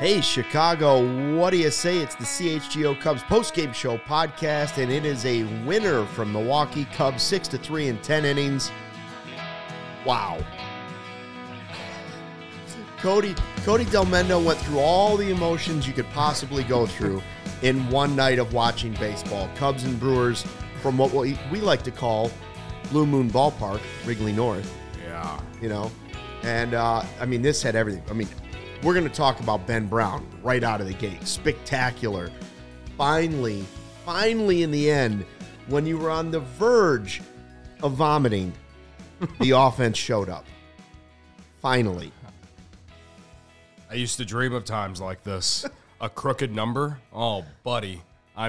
Hey, Chicago, what do you say? It's the CHGO Cubs postgame show podcast, and it is a winner from Milwaukee. Cubs 6-3 in 10 innings. Wow. Cody Delmendo went through all the emotions you could possibly go through in one night of watching baseball. Cubs and Brewers from what we like to call Blue Moon Ballpark, Wrigley North. Yeah. You know, and this had everything. We're going to talk about Ben Brown right out of the gate. Spectacular. Finally, in the end, when you were on the verge of vomiting, the offense showed up. Finally. I used to dream of times like this. A crooked number? Oh, buddy.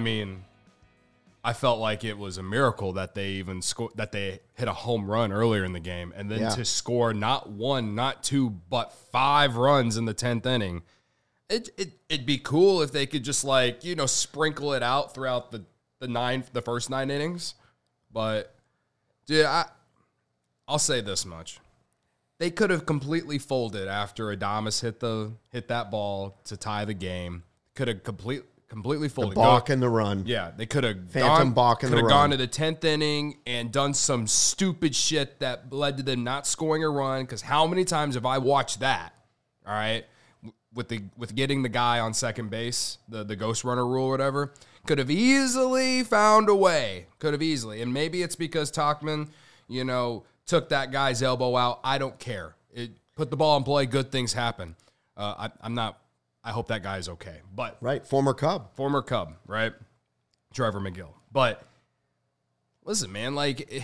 I felt like it was a miracle that they even that they hit a home run earlier in the game, and then to score not one, not two, but 5 runs in the 10th inning. It'd be cool if they could just sprinkle it out throughout the first 9 innings. But dude, I'll say this much: they could have completely folded after Adames hit that ball to tie the game. Could have completely folded. The balk and the run. Yeah, they could have gone to the 10th inning and done some stupid shit that led to them not scoring a run. Because how many times have I watched that? All right, with getting the guy on second base, the ghost runner rule or whatever, could have easily found a way. And maybe it's because Tauchman, took that guy's elbow out. I don't care. Put the ball in play. Good things happen. I hope that guy's okay. But right, former Cub, right? Trevor McGill. But listen, man,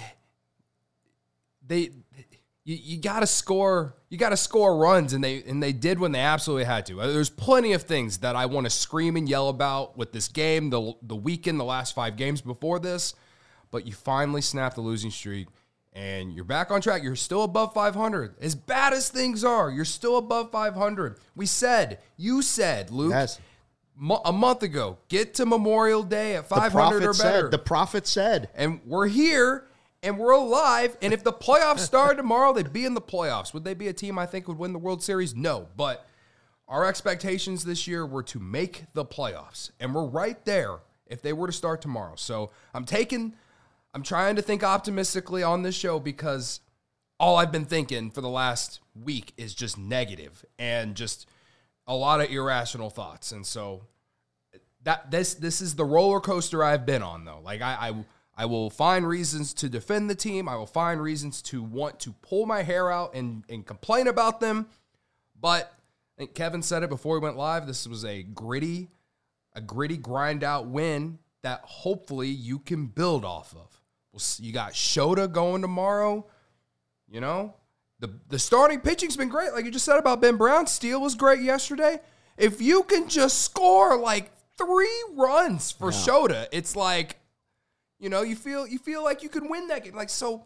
you got to score. You got to score runs, and they did when they absolutely had to. There's plenty of things that I want to scream and yell about with this game, the weekend, the last 5 games before this. But you finally snapped the losing streak, and you're back on track. You're still above 500. As bad as things are, you're still above 500. You said, Luke, yes, a month ago, get to Memorial Day at 500 or better. The prophet said. And we're here, and we're alive. And if the playoffs started tomorrow, they'd be in the playoffs. Would they be a team I think would win the World Series? No. But our expectations this year were to make the playoffs. And we're right there if they were to start tomorrow. So I'm trying to think optimistically on this show because all I've been thinking for the last week is just negative and just a lot of irrational thoughts. And so this is the roller coaster I've been on, though. I will find reasons to defend the team. I will find reasons to want to pull my hair out and complain about them. But I think Kevin said it before we went live. This was a gritty grind out win that hopefully you can build off of. You got Shota going tomorrow. The starting pitching's been great. Like you just said about Ben Brown, Steele was great yesterday. If you can just score 3 runs for Shota, it's you feel like you can win that game.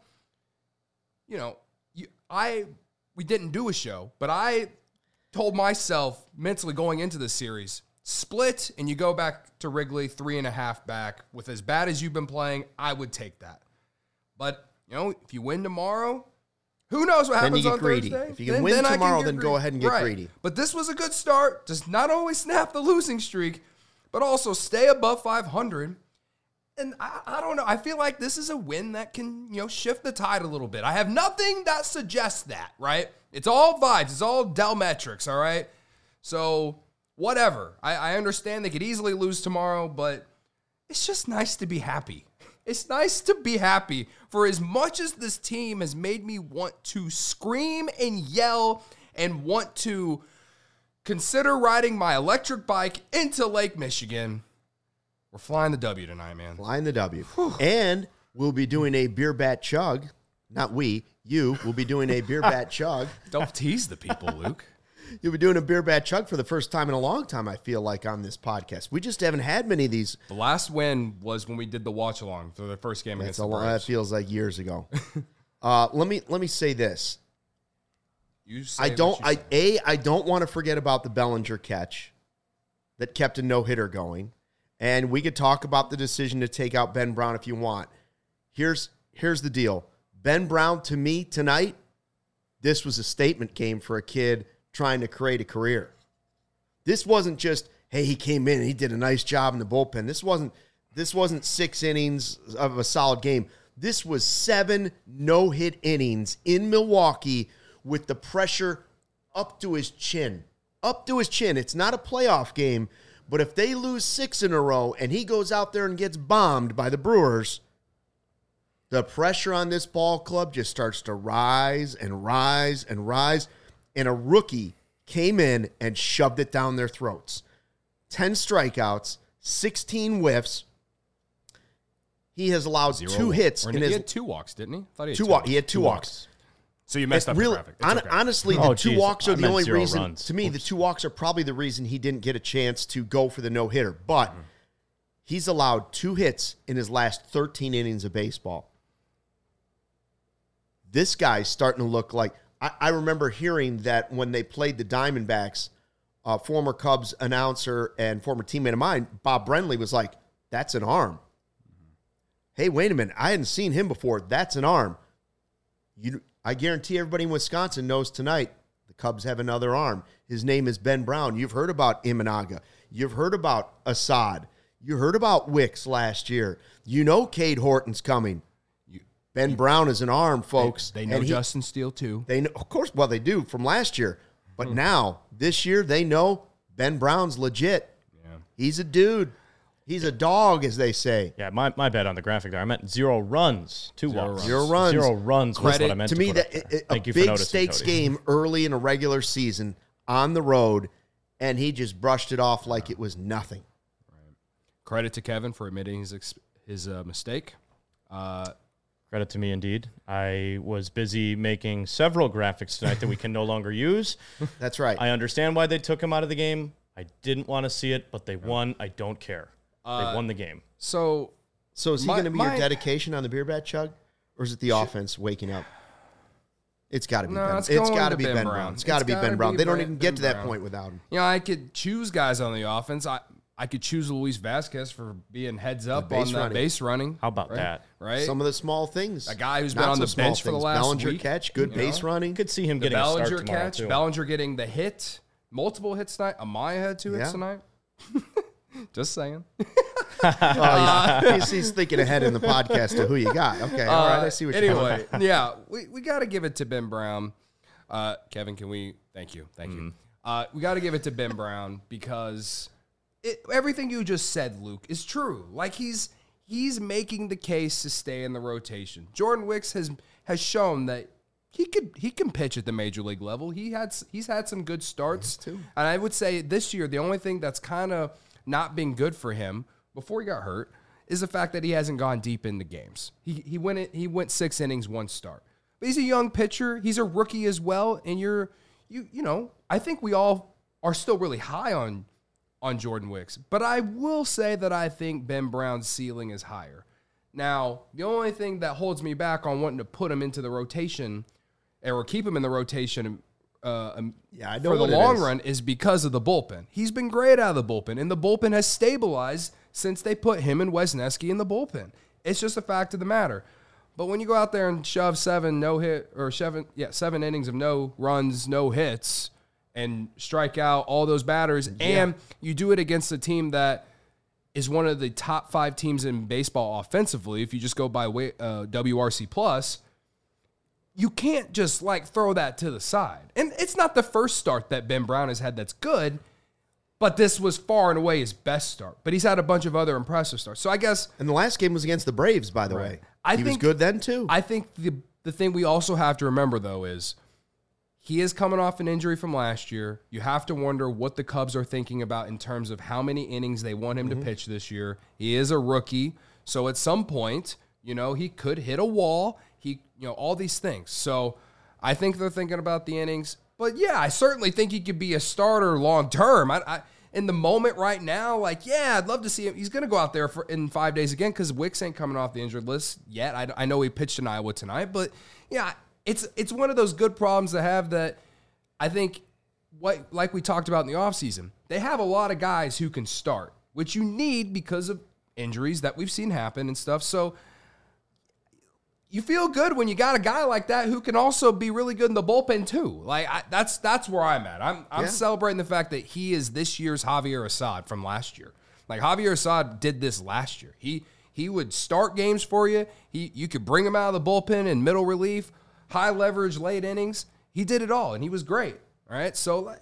We didn't do a show, but I told myself mentally going into this series, split and you go back to Wrigley 3.5 back. With as bad as you've been playing, I would take that. But, if you win tomorrow, who knows what happens on Thursday? If you can win tomorrow, then go ahead and get greedy. But this was a good start. Just not only snap the losing streak, but also stay above 500. And I don't know. I feel like this is a win that can, shift the tide a little bit. I have nothing that suggests that, right? It's all vibes. It's all Delmetrics, all right? So, whatever. I understand they could easily lose tomorrow, but it's just nice to be happy. It's nice to be happy for as much as this team has made me want to scream and yell and want to consider riding my electric bike into Lake Michigan. We're flying the W tonight, man. Flying the W. Whew. And we'll be doing a beer bat chug. Not we. You will be doing a beer bat chug. Don't tease the people, Luke. You'll be doing a beer bat chug for the first time in a long time, I feel like, on this podcast. We just haven't had many of these. The last win was when we did the watch-along for the first game against the Braves. That feels like years ago. Let me say this. I don't want to forget about the Bellinger catch that kept a no-hitter going. And we could talk about the decision to take out Ben Brown if you want. Here's the deal. Ben Brown, to me, tonight, this was a statement game for a kid trying to create a career. This wasn't just, hey, he came in and he did a nice job in the bullpen. This wasn't 6 innings of a solid game. This was 7 no-hit innings in Milwaukee with the pressure up to his chin. Up to his chin. It's not a playoff game, but if they lose 6 in a row and he goes out there and gets bombed by the Brewers, the pressure on this ball club just starts to rise and rise and rise. And a rookie came in and shoved it down their throats. 10 strikeouts, 16 whiffs. He has allowed 2 hits. He had 2 walks, didn't he? I thought he had 2 walks. So you messed up the graphic. Okay. Honestly, the 2 walks are the only reason. Runs. To me, the 2 walks are probably the reason he didn't get a chance to go for the no-hitter. But he's allowed 2 hits in his last 13 innings of baseball. This guy's starting to look like... I remember hearing that when they played the Diamondbacks, former Cubs announcer and former teammate of mine, Bob Brenly, was like, that's an arm. Hey, wait a minute. I hadn't seen him before. That's an arm. I guarantee everybody in Wisconsin knows tonight the Cubs have another arm. His name is Ben Brown. You've heard about Imanaga. You've heard about Assad. You heard about Wicks last year. You know Cade Horton's coming. Ben Brown is an arm, folks. They know Justin Steele, too. They know, of course, well, they do from last year. But now, this year, they know Ben Brown's legit. Yeah. He's a dude. He's a dog, as they say. Yeah, my bad on the graphic there. I meant 0 runs, 2 walks. 0 runs. 0 runs was what I meant to me, a big stakes Cody. game early in a regular season on the road, and he just brushed it off like it was nothing. Right. Credit to Kevin for admitting his mistake. Credit to me, indeed. I was busy making several graphics tonight that we can no longer use. That's right. I understand why they took him out of the game. I didn't want to see it, but they won. I don't care. They won the game. So is he going to be your dedication on the beer bat, Chug? Or is it the offense waking up? It's got to be Ben. It's got to be Ben Brown. It's got to be Ben Brown. They don't even get to that point without him. You know, I could choose guys on the offense. I could choose Luis Vasquez for being heads up on that base running. How about that? Right? Some of the small things. A guy who's been on the bench for the last Bellinger week. Catch, good base running. Could see him getting a start tomorrow, catch, too. Bellinger getting the hit, multiple hits tonight. Amaya had 2 hits tonight. Just saying. He's thinking ahead in the podcast to who you got. Okay, all right, I see what you're doing. Anyway, yeah, we got to give it to Ben Brown. Kevin, can we? Thank you. We got to give it to Ben Brown because everything you just said, Luke, is true. Like he's making the case to stay in the rotation. Jordan Wicks has shown that he can pitch at the major league level. He's had some good starts too. And I would say this year the only thing that's kind of not been good for him before he got hurt is the fact that he hasn't gone deep into games. He went 6 innings, 1 start. But he's a young pitcher. He's a rookie as well. And you know, I think we all are still really high on Jordan Wicks. But I will say that I think Ben Brown's ceiling is higher. Now, the only thing that holds me back on wanting to put him into the rotation or keep him in the rotation for the long run is because of the bullpen. He's been great out of the bullpen, and the bullpen has stabilized since they put him and Wesneski in the bullpen. It's just a fact of the matter. But when you go out there and shove 7 innings of no runs, no hits, and strike out all those batters, and you do it against a team that is one of the top 5 teams in baseball offensively, if you just go by WRC plus, you can't just throw that to the side. And it's not the first start that Ben Brown has had that's good, but this was far and away his best start. But he's had a bunch of other impressive starts. So I guess... And the last game was against the Braves, by the way. He was good then, too. I think the thing we also have to remember, though, is he is coming off an injury from last year. You have to wonder what the Cubs are thinking about in terms of how many innings they want him to pitch this year. He is a rookie, so at some point, he could hit a wall. All these things. So I think they're thinking about the innings. But, yeah, I certainly think he could be a starter long term. I in the moment right now, I'd love to see him. He's going to go out there in 5 days again because Wicks ain't coming off the injured list yet. I know he pitched in Iowa tonight. But, yeah, it's one of those good problems to have that I think, like we talked about in the offseason, they have a lot of guys who can start, which you need because of injuries that we've seen happen and stuff. So you feel good when you got a guy like that who can also be really good in the bullpen too. Like that's where I'm at. I'm celebrating the fact that he is this year's Javier Assad from last year. Like Javier Assad did this last year. He would start games for you. You could bring him out of the bullpen in middle relief, high leverage, late innings. He did it all, and he was great. All right, so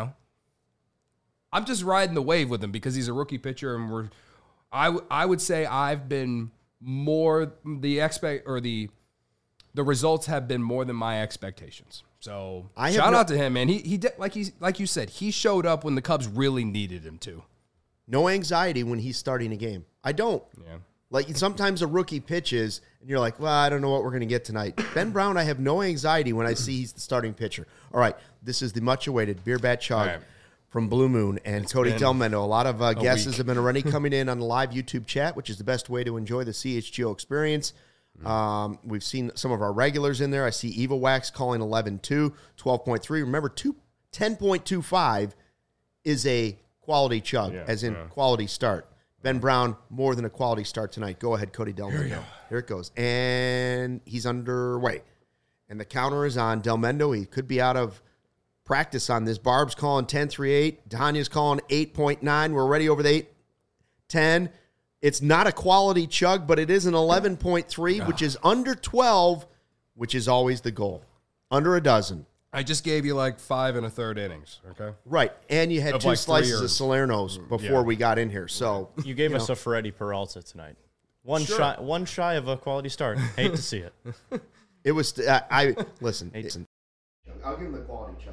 I'm just riding the wave with him because he's a rookie pitcher, and I would say I've been more the results have been more than my expectations. So shout out to him, man. He did, like you said, he showed up when the Cubs really needed him to. No anxiety when he's starting a game. I don't. Yeah. Like sometimes a rookie pitches and you're like, well, I don't know what we're going to get tonight. Ben Brown, I have no anxiety when I see he's the starting pitcher. All right, this is the much-awaited Beer Bat Chug from Blue Moon and Cody Delmendo. A lot of guesses have been already coming in on the live YouTube chat, which is the best way to enjoy the CHGO experience. We've seen some of our regulars in there. I see Eva Wax calling 11-2, 12.3. Remember, 10.25 is a quality chug, as in quality start. Ben Brown, more than a quality start tonight. Go ahead, Cody Delmendo. Here it goes. And he's underway. And the counter is on. Delmendo, he could be out of practice on this. Barb's calling 10.38. Tanya's calling 8.9. We're already over the 8.10. It's not a quality chug, but it is an 11.3, which is under 12, which is always the goal. Under a dozen. I just gave you like 5 1/3 innings, okay? Right, and you had two slices of Salerno's before we got in here. So you gave us a Freddie Peralta tonight. One shy of a quality start. Hate to see it. It was. Listen. I'll give him the quality chug.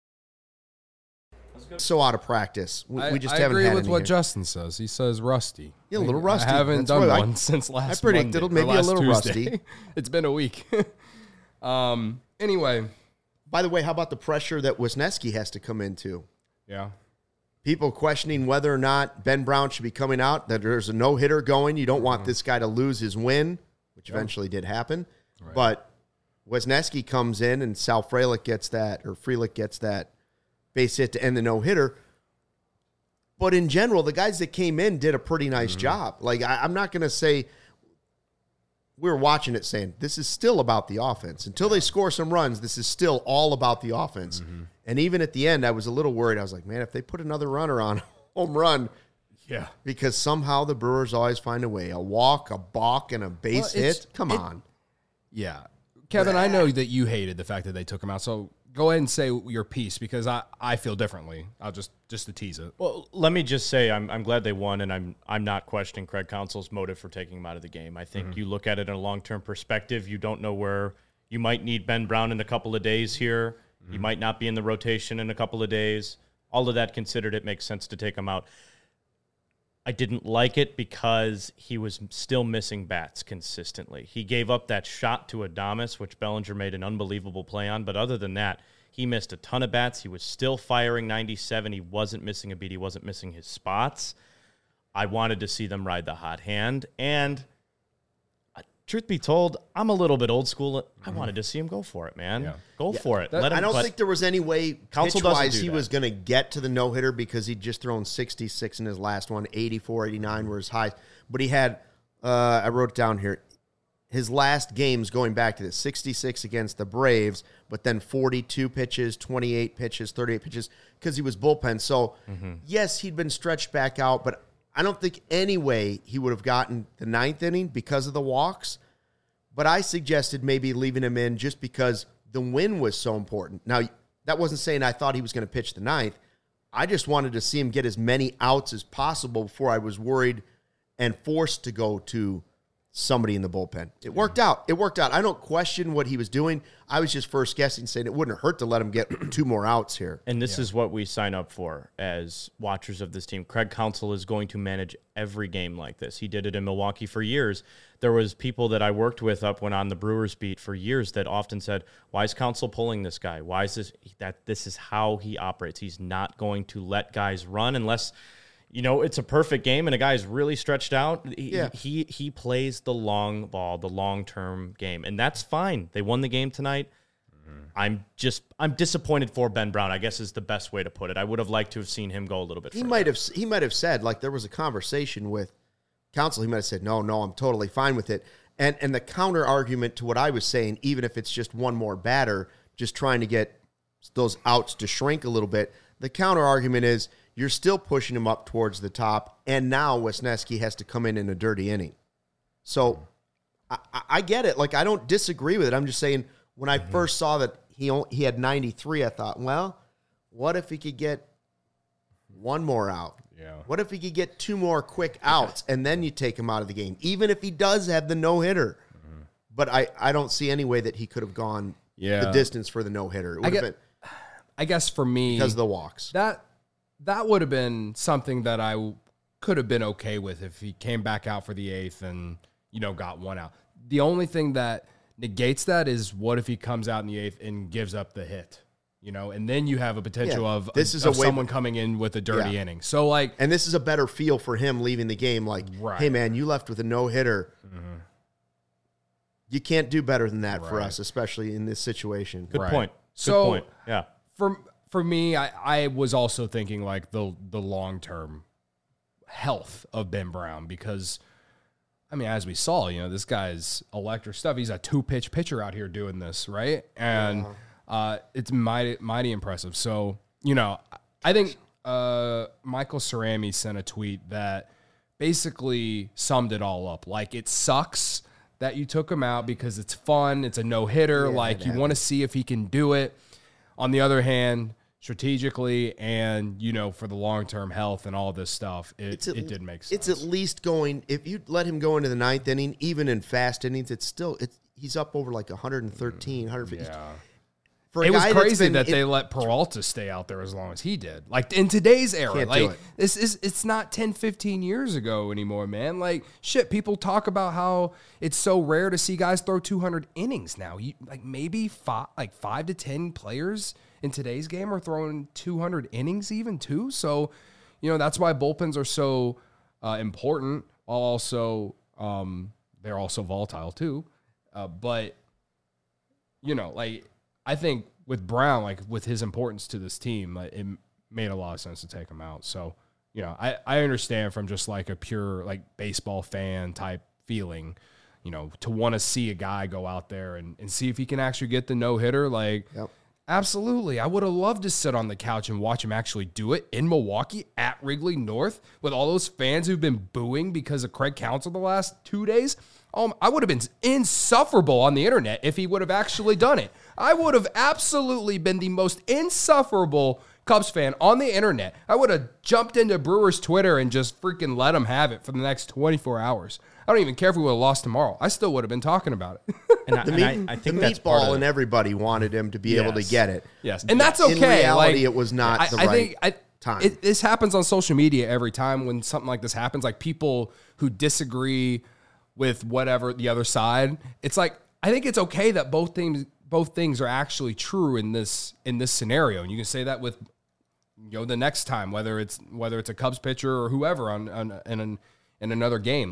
So out of practice. We just haven't had I agree with what here. Justin says. He says rusty. Yeah, a little rusty. I haven't done one since last. I predicted Monday, maybe a little Tuesday. rusty. It's been a week. Anyway. By the way, how about the pressure that Wisniewski has to come into? Yeah. People questioning whether or not Ben Brown should be coming out, that there's a no-hitter going. You don't want this guy to lose his win, which eventually did happen. Right. But Wisniewski comes in and Sal Frelick gets that base hit to end the no-hitter. But in general, the guys that came in did a pretty nice job. Like, I'm not going to say we were watching it saying this is still about the offense. Until they score some runs, this is still all about the offense. And even at the end, I was a little worried. I was like, man, if they put another runner on home run, because somehow the Brewers always find a way. A walk, a balk, and a base hit. Come on. Yeah. Kevin, I know that you hated the fact that they took him out, so go ahead and say your piece because I feel differently. I'll just to tease it. Well, let me just say I'm glad they won, and I'm not questioning Craig Counsell's motive for taking him out of the game. I think you look at it in a long-term perspective. You don't know where you might need Ben Brown in a couple of days here. He might not be in the rotation in a couple of days. All of that considered, it makes sense to take him out. I didn't like it because he was still missing bats consistently. He gave up that shot to Adames, which Bellinger made an unbelievable play on. But other than that, he missed a ton of bats. He was still firing 97. He wasn't missing a beat. He wasn't missing his spots. I wanted to see them ride the hot hand. And truth be told, I'm a little bit old school. I wanted to see him go for it, man. Go for it. I don't think there was any way pitch-wise he was going to get to the no-hitter because he'd just thrown 66 in his last one. 84, 89 were his highs. But he had, I wrote it down here, his last games going back to this, 66 against the Braves, but then 42 pitches, 28 pitches, 38 pitches because he was bullpen. So, yes, he'd been stretched back out, but I don't think any way he would have gotten the ninth inning because of the walks, but I suggested maybe leaving him in just because the win was so important. Now, that wasn't saying I thought he was going to pitch the ninth. I just wanted to see him get as many outs as possible before I was worried and forced to go to somebody in the bullpen. It worked out. I don't question what he was doing. I was just first guessing, saying it wouldn't hurt to let him get 2 more outs here. And this is what we sign up for as watchers of this team. Craig Counsell is going to manage every game like this. He did it in Milwaukee for years. There was people that I worked with up when on the Brewers beat for years that often said, why is Counsell pulling this guy? Why is this? This is how he operates. He's not going to let guys run unless it's a perfect game and a guy's really stretched out. He plays the long ball, the long-term game, and that's fine. They won the game tonight. I'm disappointed for Ben Brown, I guess is the best way to put it. I would have liked to have seen him go a little bit further. He might have said, like there was a conversation with Counsell. He might have said, no, I'm totally fine with it. And the counter argument to what I was saying, even if it's just one more batter, just trying to get those outs to shrink a little bit, the counter argument is you're still pushing him up towards the top, and now Wesneski has to come in a dirty inning. So I get it. Like, I don't disagree with it. I'm just saying when I first saw that he had 93, I thought, well, what if he could get one more out? Yeah. What if he could get 2 more quick outs and then you take him out of the game, even if he does have the no-hitter? But I don't see any way that he could have gone the distance for the no-hitter. It would have been, I guess for me, because of the walks. That would have been something that I could have been okay with if he came back out for the 8th and, got 1 out. The only thing that negates that is what if he comes out in the 8th and gives up the hit? And then you have a potential of someone coming in with a dirty inning. So, and this is a better feel for him leaving the game. Like, hey, man, you left with a no-hitter. Mm-hmm. You can't do better than that for us, especially in this situation. Good point. Good point. Yeah. For me, I was also thinking like the long-term health of Ben Brown because, as we saw, this guy's electric stuff. He's a 2-pitch pitcher out here doing this, right? And it's mighty impressive. So, I think Michael Cerami sent a tweet that basically summed it all up. Like, it sucks that you took him out because it's fun. It's a no-hitter. You want to see if he can do it. On the other hand, strategically and, for the long-term health and all this stuff, it did make sense. It's at least going, if you let him go into the 9th inning, even in fast innings, he's up over like 113, 150. Yeah. It was crazy that they let Peralta stay out there as long as he did. Like, in today's era, it's not 10, 15 years ago anymore, man. Like, shit, people talk about how it's so rare to see guys throw 200 innings now. Maybe 5 to 10 players in today's game are throwing 200 innings even too. So, that's why bullpens are so important. While also, they're also volatile too. But I think with Brown, with his importance to this team, it made a lot of sense to take him out. So, I understand from just like a pure baseball fan type feeling, to want to see a guy go out there and see if he can actually get the no-hitter. Yep. Absolutely. I would have loved to sit on the couch and watch him actually do it in Milwaukee at Wrigley North with all those fans who've been booing because of Craig Counsell the last 2 days. I would have been insufferable on the internet if he would have actually done it. I would have absolutely been the most insufferable Cubs fan on the internet. I would have jumped into Brewers Twitter and just freaking let him have it for the next 24 hours. I don't even care if we would have lost tomorrow. I still would have been talking about it. I think that's meatball and everybody wanted him to be able to get it. Yes, and that's okay. In reality, it was not the right time. This happens on social media every time when something like this happens. Like, people who disagree with whatever the other side, it's like, I think it's okay that both things are actually true in this scenario, and you can say that with the next time, whether it's a Cubs pitcher or whoever in another game.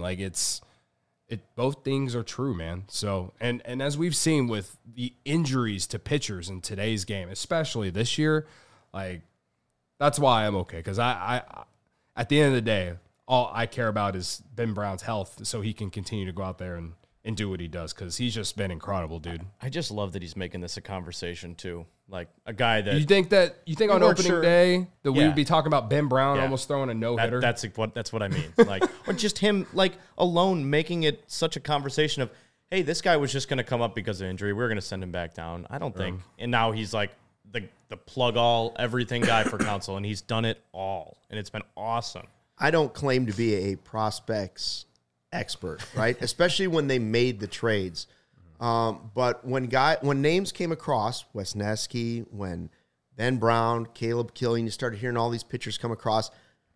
Both things are true, man. So and as we've seen with the injuries to pitchers in today's game, especially this year, that's why I'm okay, because I at the end of the day, all I care about is Ben Brown's health, so he can continue to go out there and do what he does, because he's just been incredible, dude. I just love that he's making this a conversation too. Like, a guy that you think on opening day that we would be talking about Ben Brown almost throwing a no-hitter. That's what I mean. Or just him alone making it such a conversation of, hey, this guy was just going to come up because of injury. We're going to send him back down. I don't think. And now he's like the plug all everything guy for Counsell, and he's done it all, and it's been awesome. I don't claim to be a prospects expert, right? Especially when they made the trades. But when names came across, Wesneski, when Ben Brown, Caleb Killian, you started hearing all these pitchers come across.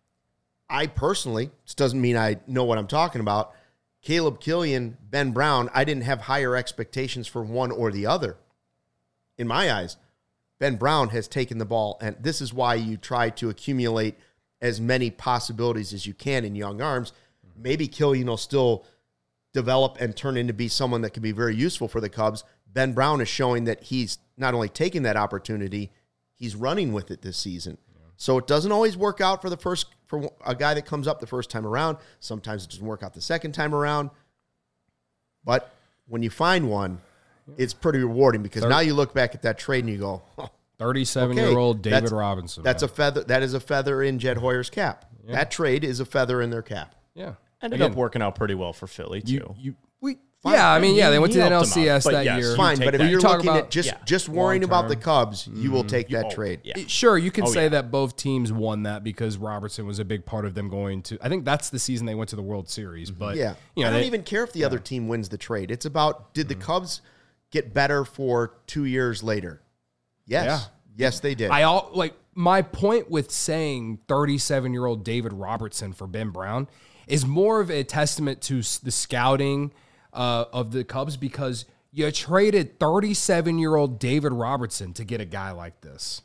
I personally, this doesn't mean I know what I'm talking about, Caleb Killian, Ben Brown, I didn't have higher expectations for one or the other. In my eyes, Ben Brown has taken the ball, and this is why you try to accumulate as many possibilities as you can in young arms. Maybe Killian will still develop and turn into be someone that can be very useful for the Cubs. Ben Brown is showing that he's not only taking that opportunity, he's running with it this season. Yeah. So it doesn't always work out for a guy that comes up the first time around. Sometimes it doesn't work out the second time around. But when you find one, it's pretty rewarding because now you look back at that trade and you go, 37-year-old David Robinson. That's a feather. That is a feather in Jed Hoyer's cap. Yeah. That trade is a feather in their cap. Yeah. Ended up working out pretty well for Philly, too. They went to the NLCS that year. Fine, but if you're looking at just worrying about the Cubs, you will take that trade. Yeah. Sure, you can say that both teams won that because Robertson was a big part of them going to. I think that's the season they went to the World Series. But I don't even care if the other team wins the trade. It's about did the Cubs get better for 2 years later? Yes. Yeah. Yes, they did. My point with saying 37-year-old David Robertson for Ben Brown is more of a testament to the scouting of the Cubs because you traded 37-year-old David Robertson to get a guy like this.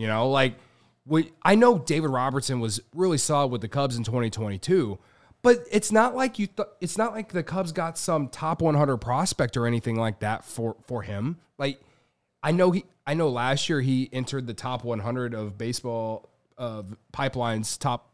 I know David Robertson was really solid with the Cubs in 2022, but it's not like it's not like the Cubs got some top 100 prospect or anything like that for him. Like I know last year he entered the top 100 of baseball Pipeline's top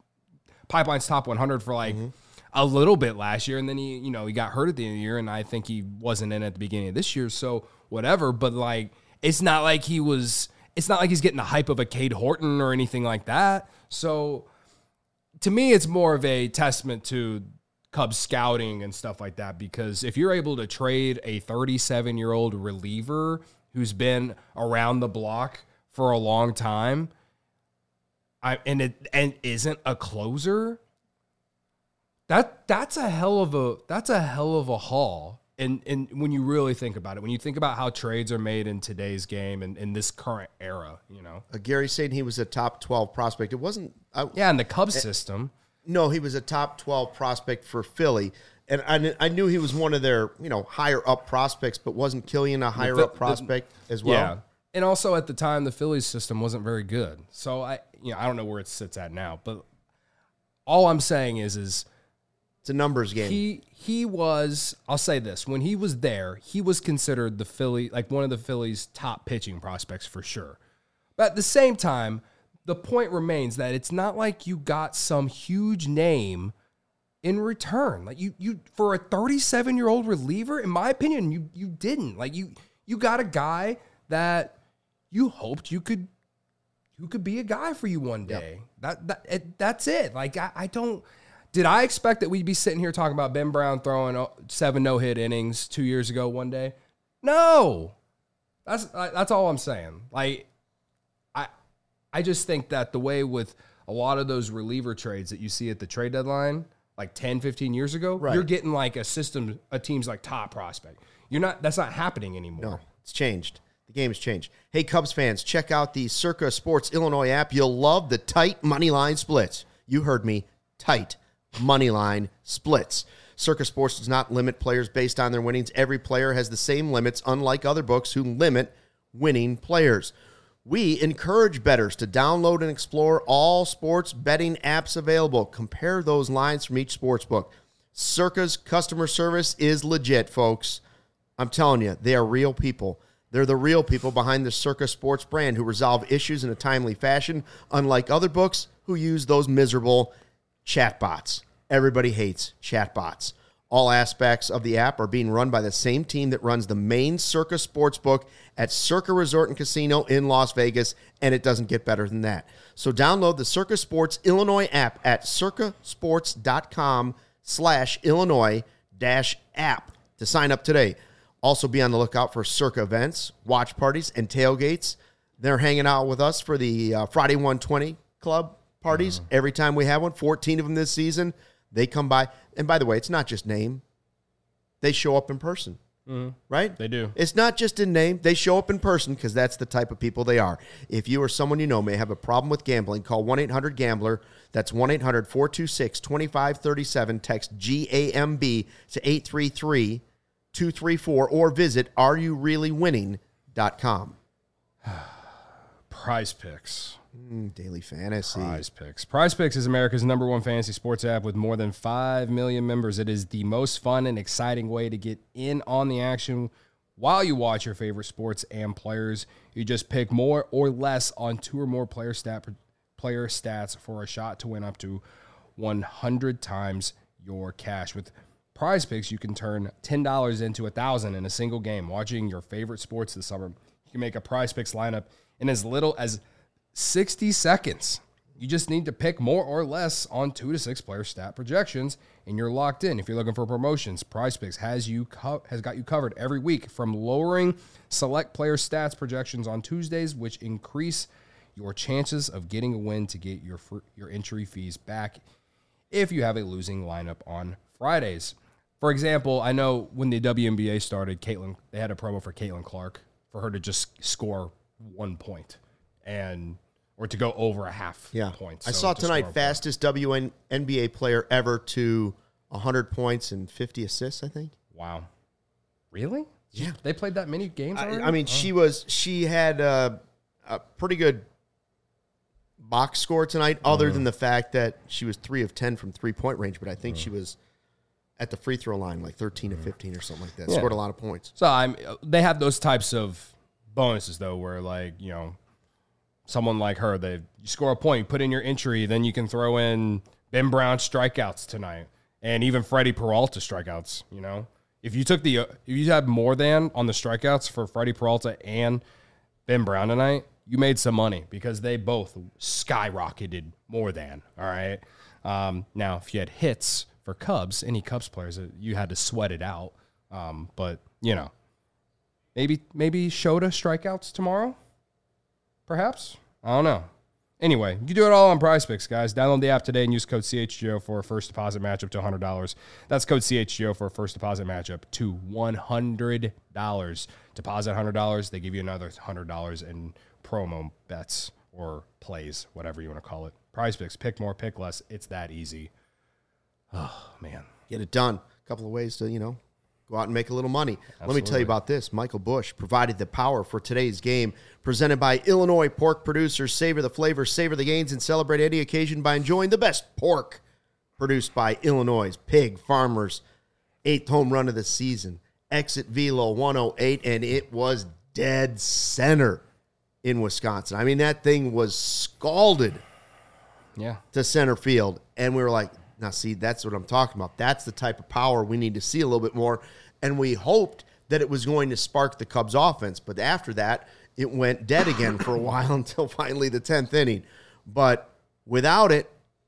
100 for a little bit last year, and then he got hurt at the end of the year, and I think he wasn't in at the beginning of this year, so whatever. But it's not like he's getting the hype of a Cade Horton or anything like that. So to me, it's more of a testament to Cubs scouting and stuff like that, because if you're able to trade a 37-year-old reliever who's been around the block for a long time, and isn't a closer, that's a hell of a haul. And when you really think about it, when you think about how trades are made in today's game and in this current era, Gary's saying he was a top 12 prospect. It wasn't. In the Cubs system. No, he was a top 12 prospect for Philly. And I knew he was one of their, higher up prospects, but wasn't Killian a higher up prospect as well? Yeah. And also at the time, the Phillies system wasn't very good. So I don't know where it sits at now, but all I'm saying is it's a numbers game. He was, I'll say this, when he was there, he was considered one of the Phillies' top pitching prospects for sure. But at the same time, the point remains that it's not like you got some huge name in return. Like you for a 37-year-old reliever, in my opinion, you didn't. Like you got a guy that you hoped who could be a guy for you one day. Yep. That's it. Like I don't. Did I expect that we'd be sitting here talking about Ben Brown throwing 7 no-hit innings 2 years ago one day? No. That's all I'm saying. Like I just think that the way with a lot of those reliever trades that you see at the trade deadline, like 10, 15 years ago, right, you're getting like a team's like top prospect. That's not happening anymore. No, it's changed. The game has changed. Hey, Cubs fans, check out the Circa Sports Illinois app. You'll love the tight money line splits. You heard me, tight money line splits. Circa Sports does not limit players based on their winnings. Every player has the same limits, unlike other books who limit winning players. We encourage bettors to download and explore all sports betting apps available. Compare those lines from each sports book. Circa's customer service is legit, folks. I'm telling you, they are real people. They're the real people behind the Circa Sports brand who resolve issues in a timely fashion, unlike other books who use those miserable chatbots. Everybody hates chatbots. All aspects of the app are being run by the same team that runs the main Circa Sportsbook at Circa Resort and Casino in Las Vegas, and it doesn't get better than that. So download the Circa Sports Illinois app at circasports.com/Illinois-app to sign up today. Also be on the lookout for Circa events, watch parties, and tailgates. They're hanging out with us for the Friday 120 Club parties. Every time we have one, 14 of them this season, they come by. And by the way, it's not just name. They show up in person, right? They do. It's not just in name. They show up in person because that's the type of people they are. If you or someone you know may have a problem with gambling, call 1-800-GAMBLER. That's 1-800-426-2537. Text GAMB to 833-234 or visit areyoureallywinning.com. Prize Picks. Daily fantasy. Prize Picks. Prize Picks is America's #1 fantasy sports app with more than 5 million members. It is the most fun and exciting way to get in on the action while you watch your favorite sports and players. You just pick more or less on 2 or more player stats for a shot to win up to 100 times your cash. With Prize Picks, you can turn $10 into $1,000 in a single game. Watching your favorite sports this summer, you can make a Prize Picks lineup in as little as 60 seconds. You just need to pick more or less on 2 to 6 player stat projections, and you're locked in. If you're looking for promotions, Prize Picks has got you covered every week, from lowering select player stats projections on Tuesdays, which increase your chances of getting a win to get your entry fees back if you have a losing lineup on Fridays. For example, I know when the WNBA started, they had a promo for Caitlin Clark for her to just score 1 point or to go over a half point. I saw tonight fastest WNBA player ever to 100 points and 50 assists, I think. Wow. Really? Yeah. They played that many games already? I mean, she had a pretty good box score tonight, other than the fact that she was 3 of 10 from 3-point range, but I think she was at the free throw line, like 13 to 15 or something like that. Yeah. Scored a lot of points. So they have those types of bonuses, though, where, like, someone like her, you score a point, you put in your entry, then you can throw in Ben Brown strikeouts tonight, and even Freddie Peralta strikeouts. If you had more than on the strikeouts for Freddie Peralta and Ben Brown tonight, you made some money because they both skyrocketed more than. All right. Now, if you had hits for Cubs, any Cubs players, you had to sweat it out. But maybe Shota strikeouts tomorrow. Perhaps? I don't know. Anyway, you can do it all on Prize Picks, guys. Download the app today and use code CHGO for a first deposit matchup to $100. That's code CHGO for a first deposit matchup to $100. Deposit $100, they give you another $100 in promo bets or plays, whatever you want to call it. Prize Picks, pick more, pick less. It's that easy. Oh, man. Get it done. A couple of ways to, go out and make a little money. Absolutely. Let me tell you about this. Michael Bush provided the power for today's game, presented by Illinois pork producers. Savor the flavor, savor the gains, and celebrate any occasion by enjoying the best pork produced by Illinois' pig farmers. 8th home run of the season. Exit velo 108, and it was dead center in Wisconsin. I mean, that thing was scalded to center field, and we were like, now, see, that's what I'm talking about. That's the type of power we need to see a little bit more. And we hoped that it was going to spark the Cubs offense. But after that, it went dead again for a while until finally the 10th inning. But without it,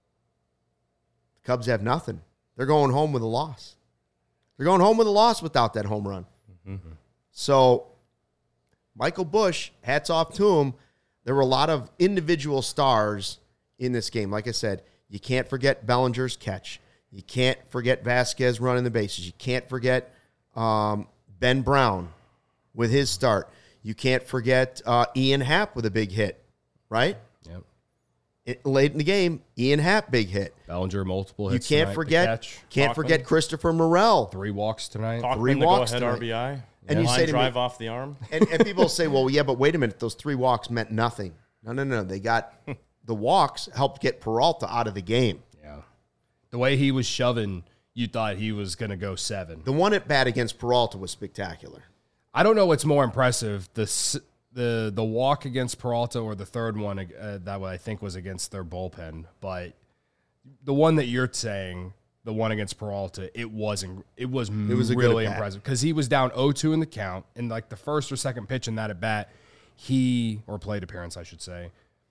the Cubs have nothing. They're going home with a loss. They're going home with a loss without that home run. Mm-hmm. So Michael Bush, hats off to him. There were a lot of individual stars in this game. Like I said, you can't forget Bellinger's catch. You can't forget Vasquez running the bases. You can't forget Ben Brown with his start. You can't forget Ian Happ with a big hit, right? Yep. Late in the game, Ian Happ, big hit. Bellinger, multiple hits. You can't forget Christopher Morel. 3 walks tonight. Talkman, 3 walks the go-ahead tonight. RBI. And you say to drive me, off the arm. And people say, well, yeah, but wait a minute. Those 3 walks meant nothing. No. They got the walks helped get Peralta out of the game. Yeah. The way he was shoving, you thought he was going to go 7. The one at bat against Peralta was spectacular. I don't know what's more impressive, the walk against Peralta or the third one that I think was against their bullpen. But the one that you're saying, the one against Peralta, it was really impressive because he was down 0-2 in the count, and like the first or second pitch in that at bat, or plate appearance, I should say.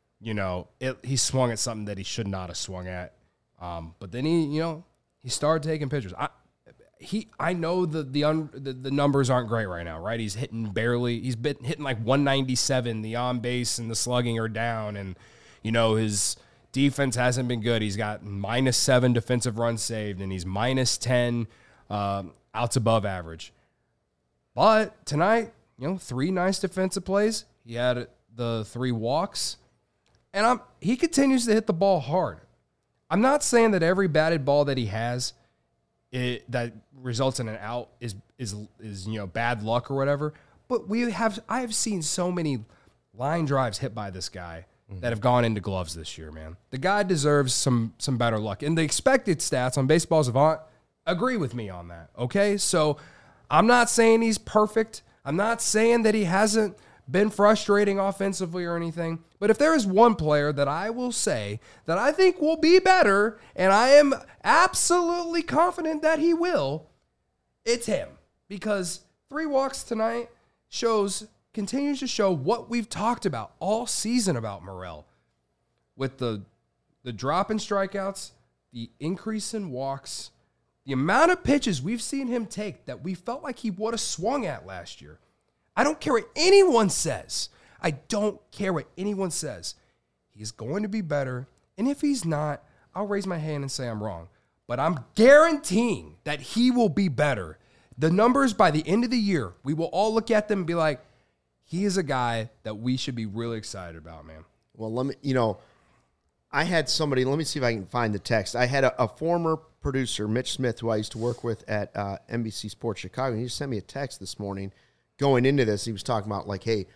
He swung at something that he should not have swung at. But then he started taking pitchers. I know the numbers aren't great right now, right? He's hitting like 197. The on base and the slugging are down, and his defense hasn't been good. He's got -7 defensive runs saved, and he's -10 outs above average. But tonight, 3 nice defensive plays. He had the 3 walks. And he continues to hit the ball hard. I'm not saying that every batted ball that he has that results in an out is bad luck or whatever. But I have seen so many line drives hit by this guy that have gone into gloves this year, man. The guy deserves some better luck. And the expected stats on Baseball Savant agree with me on that. Okay, so I'm not saying he's perfect. I'm not saying that he hasn't been frustrating offensively or anything. But if there is one player that I will say that I think will be better, and I am absolutely confident that he will, it's him. Because 3 walks tonight continues to show what we've talked about all season about Morel. With the drop in strikeouts, the increase in walks, the amount of pitches we've seen him take that we felt like he would have swung at last year. I don't care what anyone says. I don't care what anyone says. He's going to be better. And if he's not, I'll raise my hand and say I'm wrong. But I'm guaranteeing that he will be better. The numbers by the end of the year, we will all look at them and be like, he is a guy that we should be really excited about, man. Well, I had somebody, let me see if I can find the text. I had a former producer, Mitch Smith, who I used to work with at NBC Sports Chicago. And he just sent me a text this morning going into this. He was talking about like, hey,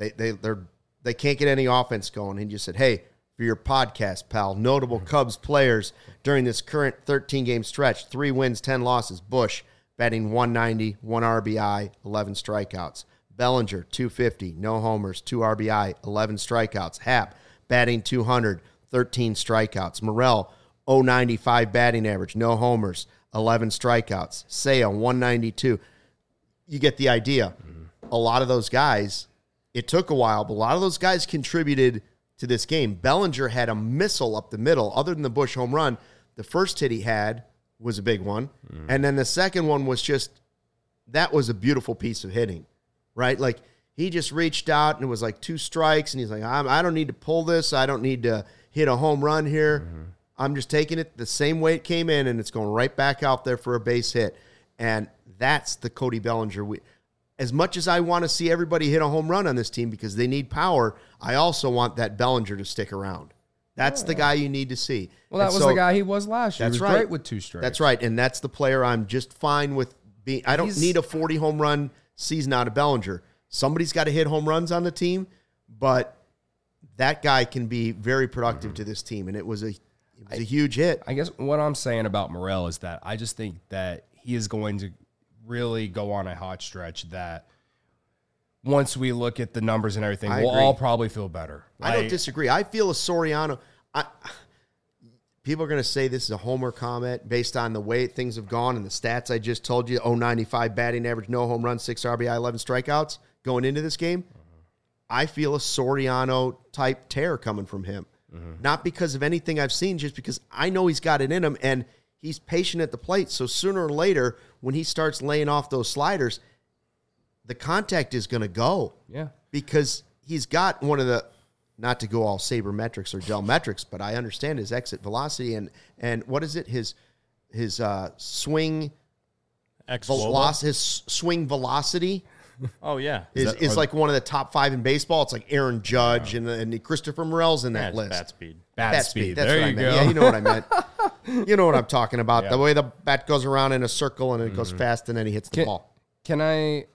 they can't get any offense going. He just said, hey, for your podcast, pal, notable Cubs players during this current 13-game stretch, 3 wins, 10 losses. Bush batting 190, 1 RBI, 11 strikeouts. Bellinger, 250, no homers, 2 RBI, 11 strikeouts. Happ batting 200, 13 strikeouts. Morel, 095 batting average, no homers, 11 strikeouts. Sale, 192. You get the idea. A lot of those guys, it took a while, but a lot of those guys contributed to this game. Bellinger had a missile up the middle. Other than the Bush home run, the first hit he had was a big one. And then the second one was that was a beautiful piece of hitting, right? Like, he just reached out and it was like 2 strikes, and he's like, I don't need to pull this. I don't need to hit a home run here. I'm just taking it the same way it came in, and it's going right back out there for a base hit. And that's the Cody Bellinger. As much as I want to see everybody hit a home run on this team because they need power, I also want that Bellinger to stick around. That's the guy you need to see. Well, that was the guy he was last year. He was great with 2 strikes. That's right, and that's the player I'm just fine with being. I don't need a 40 home run season out of Bellinger. Somebody's got to hit home runs on the team, but that guy can be very productive to this team, and it was a huge hit. I guess what I'm saying about Morel is that I just think that he is going to really go on a hot stretch that once we look at the numbers and everything, we'll all probably feel better. I don't disagree. I feel a Soriano. People are going to say this is a homer comment based on the way things have gone and the stats I just told you, 095 batting average, no home runs, 6 RBI, 11 strikeouts going into this game. I feel a Soriano-type tear coming from him. Not because of anything I've seen, just because I know he's got it in him, and he's patient at the plate. So sooner or later, when he starts laying off those sliders, the contact is going to go. Yeah. Because he's got one of the, not to go all sabermetrics or gel metrics, but I understand his exit velocity and what is it? His swing velocity, his swing velocity. Oh, yeah. Is like one of the top 5 in baseball. It's like Aaron Judge and Christopher Morel's in that list. Bat speed. Bat speed. That's there what you I meant. go. Yeah, you know what I meant. You know what I'm talking about. Yeah. The way the bat goes around in a circle and it goes fast and then he hits the ball. Can I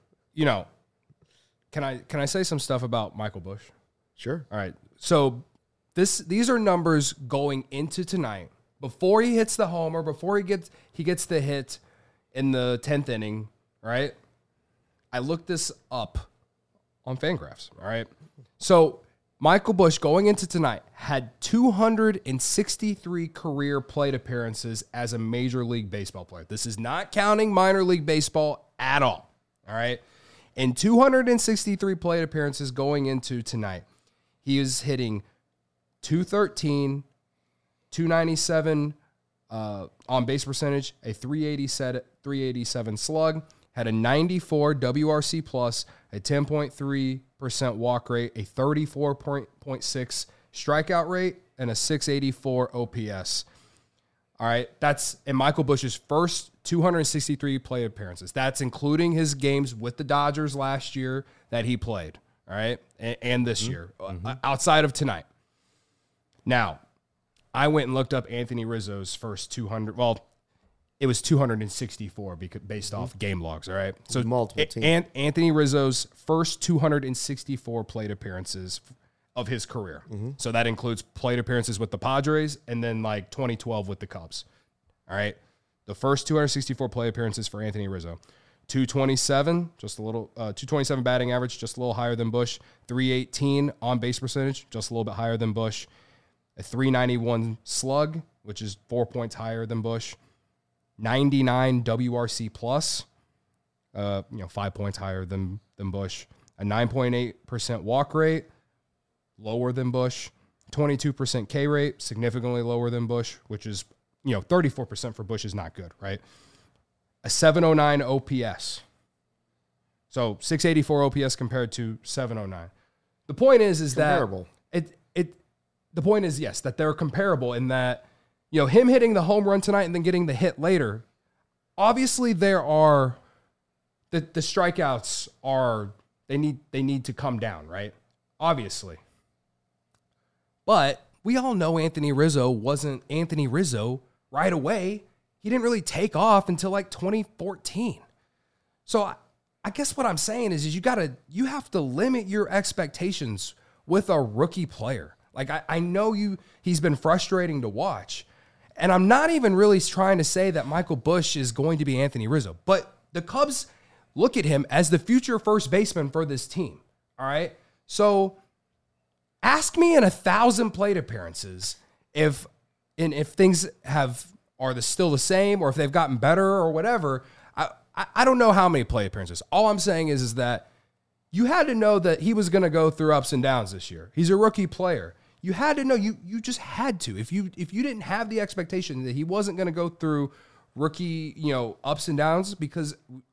say some stuff about Michael Bush? Sure. All right. So these are numbers going into tonight. Before he hits the homer, before he gets the hit in the 10th inning, right? I looked this up on Fangraphs, all right? So Michael Bush, going into tonight, had 263 career plate appearances as a Major League Baseball player. This is not counting minor league baseball at all right? In 263 plate appearances going into tonight, he is hitting 213, 297 on base percentage, a 387 slug, had a 94 WRC plus, a 10.3% walk rate, a 34.6 strikeout rate, and a 684 OPS. All right, that's in Michael Bush's first 263 plate appearances. That's including his games with the Dodgers last year that he played, all right, and this year, outside of tonight. Now, I went and looked up Anthony Rizzo's first 200. Well, it was 264 based off game logs, all right? So multiple teams. Anthony Rizzo's first 264 plate appearances of his career. So that includes plate appearances with the Padres and then like 2012 with the Cubs. All right. The first 264 plate appearances for Anthony Rizzo. 227, just a little, 227 batting average, just a little higher than Bush. 318 on base percentage, just a little bit higher than Bush. A 391 slug, which is 4 points higher than Bush. 99 WRC plus, 5 points higher than Bush. A 9.8% walk rate, lower than Bush. 22% K rate, significantly lower than Bush, which is, 34% for Bush is not good, right? A 709 OPS. So 684 OPS compared to 709. The point is comparable. That the point is, yes, that they're comparable in that, him hitting the home run tonight and then getting the hit later. Obviously, there are the strikeouts are they need to come down, right? Obviously. But we all know Anthony Rizzo wasn't Anthony Rizzo right away. He didn't really take off until like 2014. So I guess what I'm saying is you have to limit your expectations with a rookie player. Like I know he's been frustrating to watch. And I'm not even really trying to say that Michael Busch is going to be Anthony Rizzo, but the Cubs look at him as the future first baseman for this team. All right. So ask me in 1,000 plate appearances if things are still the same or if they've gotten better or whatever. I don't know how many plate appearances. All I'm saying is that you had to know that he was going to go through ups and downs this year. He's a rookie player. You had to know, you just had to. If you didn't have the expectation that he wasn't going to go through rookie, ups and downs, because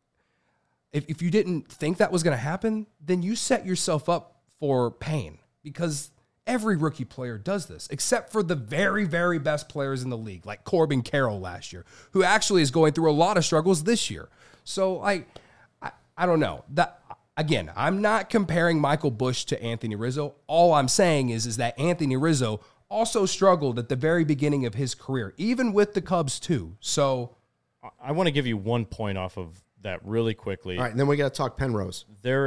if you didn't think that was going to happen, then you set yourself up for pain, because every rookie player does this, except for the very, very best players in the league, like Corbin Carroll last year, who actually is going through a lot of struggles this year. So I don't know. That again, I'm not comparing Michael Busch to Anthony Rizzo. All I'm saying is that Anthony Rizzo also struggled at the very beginning of his career, even with the Cubs too. So I want to give you 1 point off of that really quickly. All right, and then we got to talk Penrose.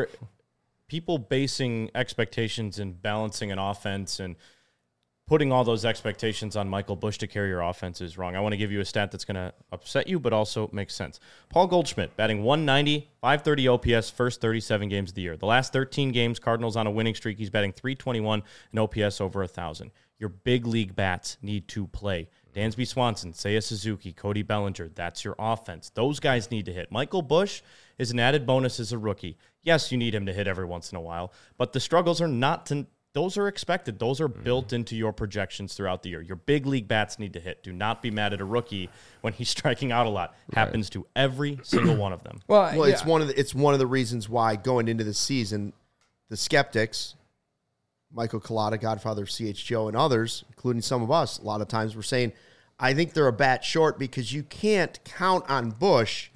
People basing expectations and balancing an offense and putting all those expectations on Michael Busch to carry your offense is wrong. I want to give you a stat that's going to upset you, but also makes sense. Paul Goldschmidt, batting 190, 530 OPS, first 37 games of the year. The last 13 games, Cardinals on a winning streak. He's batting 321 and OPS over 1,000. Your big league bats need to play. Dansby Swanson, Seiya Suzuki, Cody Bellinger, that's your offense. Those guys need to hit. Michael Busch is an added bonus as a rookie. Yes, you need him to hit every once in a while, but the struggles are not those are expected. Those are built into your projections throughout the year. Your big league bats need to hit. Do not be mad at a rookie when he's striking out a lot. Happens to every single one of them. Well, yeah. It's one of the reasons why going into the season, the skeptics, Michael Collada, Godfather of CH Joe, and others, including some of us, a lot of times were saying, I think they're a bat short because you can't count on Busch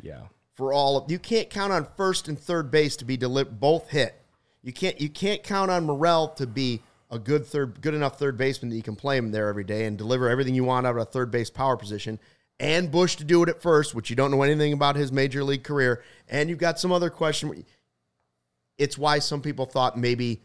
you can't count on first and third base to be both hit. You can't count on Morel to be a good enough third baseman that you can play him there every day and deliver everything you want out of a third base power position, and Busch to do it at first, which you don't know anything about his major league career, and you've got some other question. It's why some people thought maybe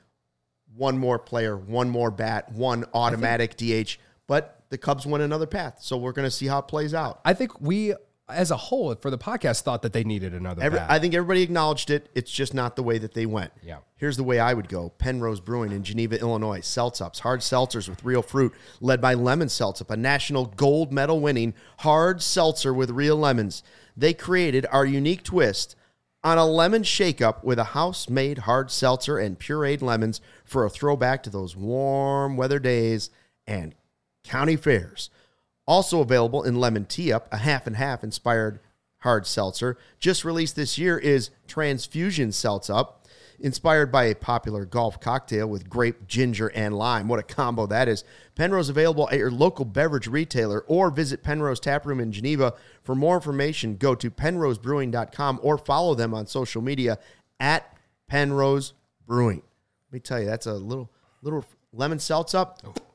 one more player, one more bat, one automatic DH, but the Cubs went another path, so we're going to see how it plays out. I think we, as a whole, for the podcast, thought that they needed another bat. I think everybody acknowledged it. It's just not the way that they went. Yeah. Here's the way I would go. Penrose Brewing in Geneva, Illinois. Seltzups, hard seltzers with real fruit, led by Lemon Seltzup, a national gold medal winning hard seltzer with real lemons. They created our unique twist on a lemon shake-up with a house-made hard seltzer and pureed lemons for a throwback to those warm weather days and county fairs. Also available in Lemon Tea-Up, a half-and-half inspired hard seltzer. Just released this year is Transfusion Seltzup, inspired by a popular golf cocktail with grape, ginger, and lime. What a combo that is. Penrose available at your local beverage retailer or visit Penrose Taproom in Geneva. For more information, go to penrosebrewing.com or follow them on social media at Penrose Brewing. Let me tell you, that's a little lemon seltzup.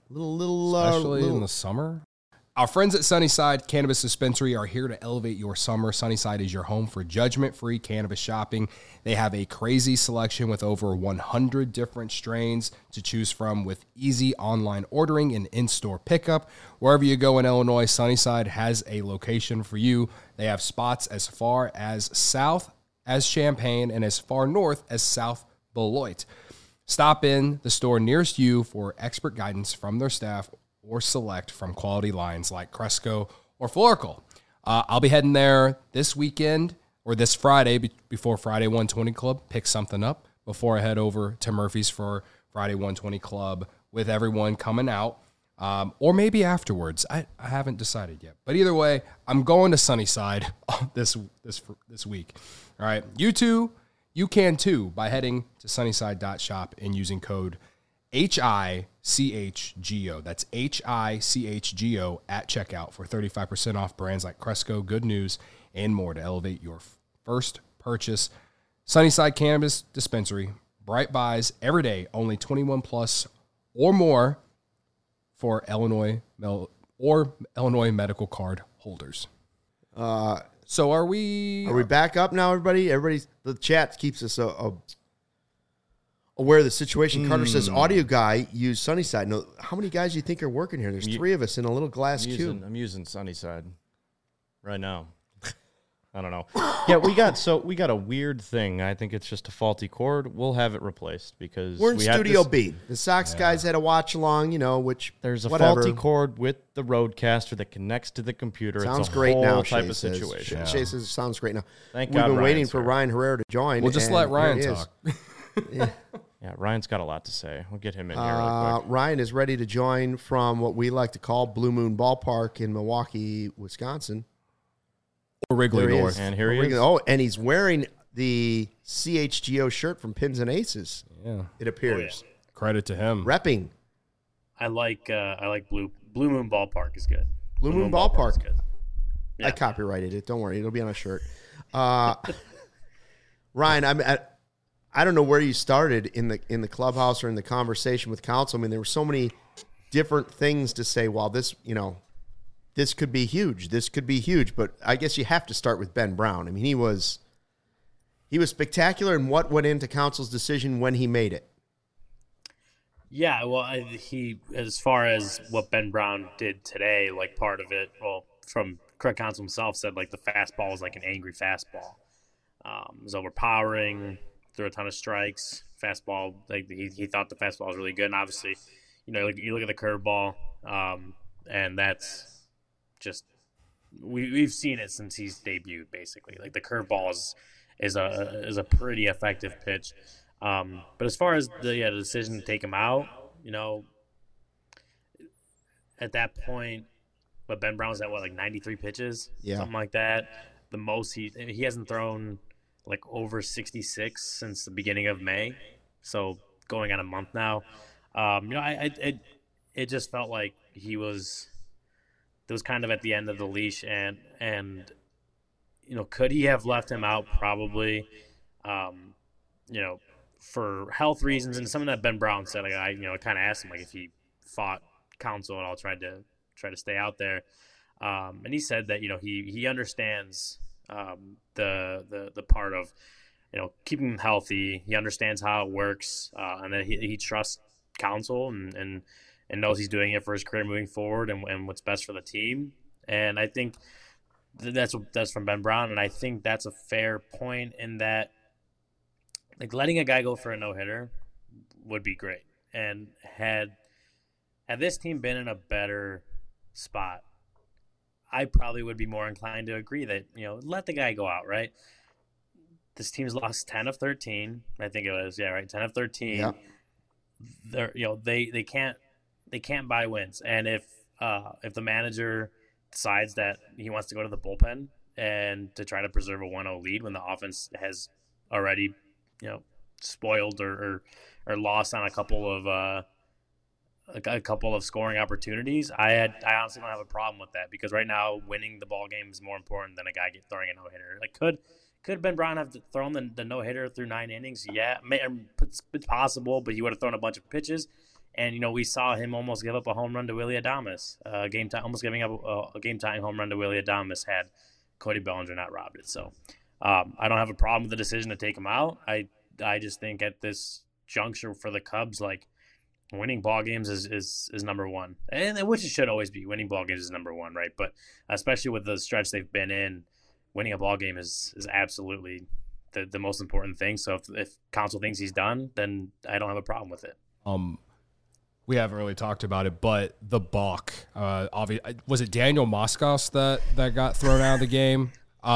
Especially in the summer. Our friends at Sunnyside Cannabis Dispensary are here to elevate your summer. Sunnyside is your home for judgment-free cannabis shopping. They have a crazy selection with over 100 different strains to choose from with easy online ordering and in-store pickup. Wherever you go in Illinois, Sunnyside has a location for you. They have spots as far as South as Champaign and as far north as South Beloit. Stop in the store nearest you for expert guidance from their staff or select from quality lines like Cresco or Florical. I'll be heading there this weekend or this Friday before Friday 120 Club. Pick something up before I head over to Murphy's for Friday 120 Club with everyone coming out. Or maybe afterwards. I haven't decided yet. But either way, I'm going to Sunnyside this week. All right. You can too by heading to sunnyside.shop and using code HICHGO. That's HICHGO at checkout for 35% off brands like Cresco, Good News, and more to elevate your first purchase. Sunnyside Cannabis Dispensary. Bright buys every day. Only 21 plus or more for Illinois medical card holders. So are we back up now, everybody? The chat keeps us aware of the situation. Carter says, audio guy, use Sunnyside. No, how many guys do you think are working here? There's 3 of us in a little glass cube. I'm using Sunnyside right now. I don't know. Yeah, we got a weird thing. I think it's just a faulty cord. We'll have it replaced because we're in Studio B. The Sox guys had a watch along, which there's a faulty cord with the Roadcaster that connects to the computer. Sounds it's a great whole now. Type Shay of says. situation. Shay says it sounds great now. We've been waiting for Ryan Herrera to join. We'll just let Ryan talk. Yeah, Ryan's got a lot to say. We'll get him in here real quick. Ryan is ready to join from what we like to call Blue Moon Ballpark in Milwaukee, Wisconsin. Or Wrigley North. And here he is. Oh, and he's wearing the CHGO shirt from Pins and Aces. Yeah. It appears. Oh, yeah. Credit to him. Repping. I like Blue Moon Ballpark is good. Blue Moon Ballpark is good. Yeah. I copyrighted it. Don't worry. It'll be on a shirt. Ryan, I don't know where you started in the clubhouse or in the conversation with council. I mean, there were so many different things to say. Well, this could be huge. This could be huge. But I guess you have to start with Ben Brown. I mean, he was spectacular in what went into council's decision when he made it. Yeah, well, he as far as what Ben Brown did today, like part of it, well, from Craig Counsell himself said like the fastball was like an angry fastball. It was overpowering, threw a ton of strikes. Fastball, like he thought the fastball was really good. And obviously, you look at the curveball, and that's just we've seen it since he's debuted. Basically, like the curveball is a pretty effective pitch. But as far as the decision to take him out, at that point, but Ben Brown's at 93 pitches, something like that. The most he hasn't thrown like over 66 since the beginning of May, so going on a month now. It just felt like it was kind of at the end of the leash, and could he have left him out? Probably. For health reasons, and something that Ben Brown said, like I kind of asked him like if he fought counsel at all, tried to stay out there, and he said that he understands the part of keeping him healthy. He understands how it works, and that he trusts counsel and knows he's doing it for his career moving forward and what's best for the team. And I think that's from Ben Brown, and I think that's a fair point in that. Like letting a guy go for a no-hitter would be great. And had this team been in a better spot, I probably would be more inclined to agree that, let the guy go out, right? This team's lost 10 of 13. I think it was, 10 of 13. Yeah. They can't buy wins. And if the manager decides that he wants to go to the bullpen and to try to preserve a 1-0 lead when the offense has already spoiled or lost on a couple of scoring opportunities, I honestly don't have a problem with that, because right now winning the ball game is more important than a guy throwing a no-hitter. Like could Ben Brown have thrown the no-hitter through 9 innings? Yeah, it's possible, but he would have thrown a bunch of pitches. And we saw him almost give up a home run to Willy Adames, almost giving up a game-tying home run to Willy Adames had Cody Bellinger not robbed it. So I don't have a problem with the decision to take him out. I just think at this juncture for the Cubs, like winning ball games is number one, and which it should always be. Winning ball games is number one, right? But especially with the stretch they've been in, winning a ball game is absolutely the most important thing. So if Counsell thinks he's done, then I don't have a problem with it. We haven't really talked about it, but the balk. Was it Daniel Moskos that got thrown out of the game?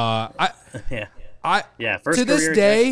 First to this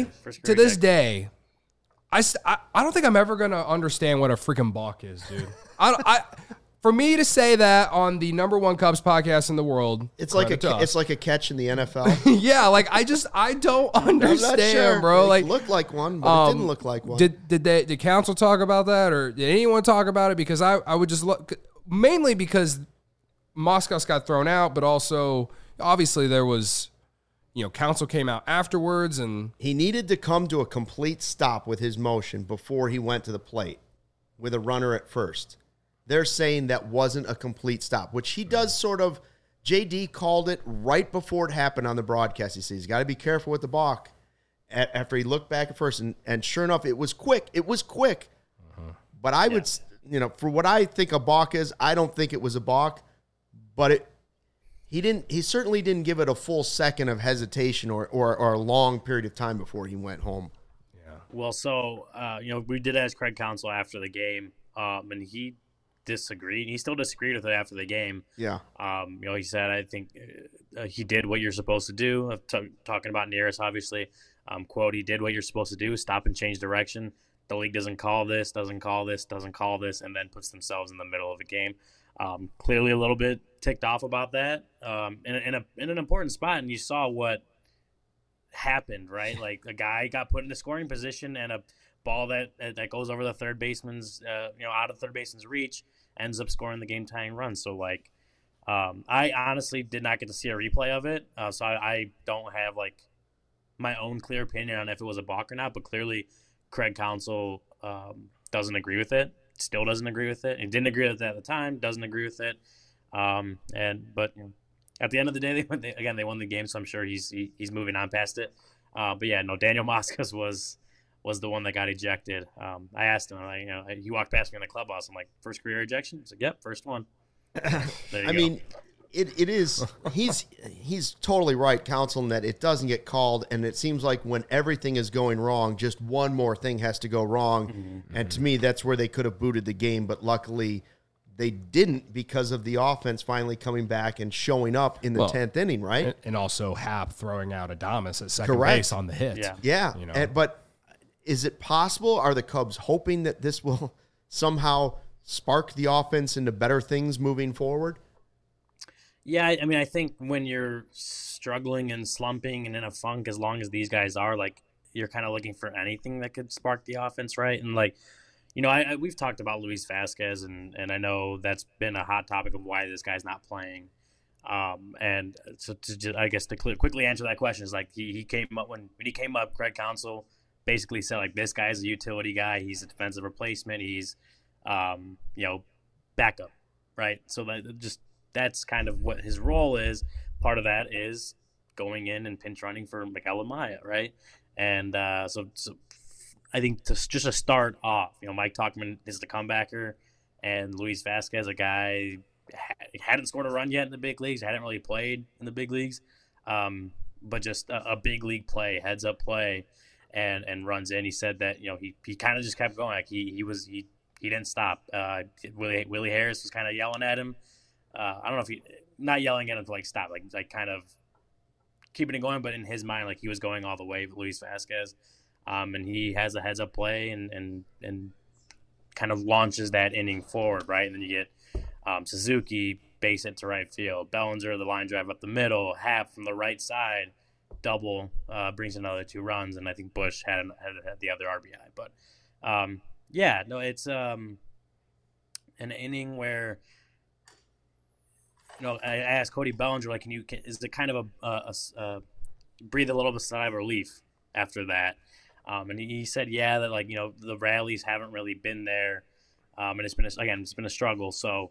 day, I don't think I'm ever gonna understand what a freaking balk is, dude. For me to say that on the #1 Cubs podcast in the world, it's like a catch in the NFL. Yeah, like I don't understand, sure. bro. It like looked like one, but it didn't look like one. Did Counsell talk about that, or did anyone talk about it? Because I would just look, mainly because Moskos got thrown out, but also obviously there was, Counsell came out afterwards, and he needed to come to a complete stop with his motion before he went to the plate with a runner at first. They're saying that wasn't a complete stop, which he does sort of. JD called it right before it happened on the broadcast. He says he's got to be careful with the balk after he looked back at first. And sure enough, it was quick. It was quick. But I would, for what I think a balk is, I don't think it was a balk. But he certainly didn't give it a full second of hesitation or a long period of time before he went home. Yeah. Well, so, we did ask Craig Counsell after the game, and he disagreed. He still disagreed with it after the game. Yeah. He said, I think he did what you're supposed to do. Talking about Neris, obviously. Quote, he did what you're supposed to do, stop and change direction. The league doesn't call this, and then puts themselves in the middle of the game. Clearly a little bit ticked off about that in an important spot, and you saw what happened, right? Like a guy got put in a scoring position, and a ball that goes over the third baseman's, out of third baseman's reach, ends up scoring the game-tying run. So, I honestly did not get to see a replay of it, so I don't have, my own clear opinion on if it was a balk or not, but clearly Craig Counsell doesn't agree with it, still doesn't agree with it. He didn't agree with it at the time, doesn't agree with it. But at the end of the day, they won the game, so I'm sure he's moving on past it. Daniel Moskos was the one that got ejected. I asked him, he walked past me in the clubhouse. I'm like, first career ejection? He's like, yep, first one. There you go. It is. He's totally right, Counsell, in that it doesn't get called, and it seems like when everything is going wrong, just one more thing has to go wrong. Mm-hmm. And to me, that's where they could have booted the game, but luckily they didn't because of the offense finally coming back and showing up in the 10th inning, right? And also Happ throwing out Adames at second base on the hit. Yeah. But is it possible? Are the Cubs hoping that this will somehow spark the offense into better things moving forward? Yeah, I think when you're struggling and slumping and in a funk, as long as these guys are, you're kind of looking for anything that could spark the offense, right? And we've talked about Luis Vasquez, and I know that's been a hot topic of why this guy's not playing. And so to quickly answer that question is he came up when he came up, Craig Counsell basically said this guy's a utility guy. He's a defensive replacement. He's backup, right? So that's kind of what his role is. Part of that is going in and pinch running for Miguel Amaya, right? And so I think just to start off, Mike Tauchman is the comebacker, and Luis Vasquez, a guy hadn't scored a run yet in the big leagues, hadn't really played in the big leagues, but just a big league play, heads up play, and runs in. He said that he kind of just kept going. He didn't stop. Willie Harris was kind of yelling at him. I don't know if not yelling at him to stop, kind of keeping it going, but in his mind, he was going all the way with Luis Vasquez. And he has a heads up play and kind of launches that inning forward, right? And then you get Suzuki base hit to right field, Bellinger the line drive up the middle, Happ from the right side, double brings another 2 runs, and I think Bush had the other RBI. But it's an inning where I asked Cody Bellinger, is it kind of a breathe a little bit of sigh of relief after that? And he said, that the rallies haven't really been there, and it's been a struggle. So,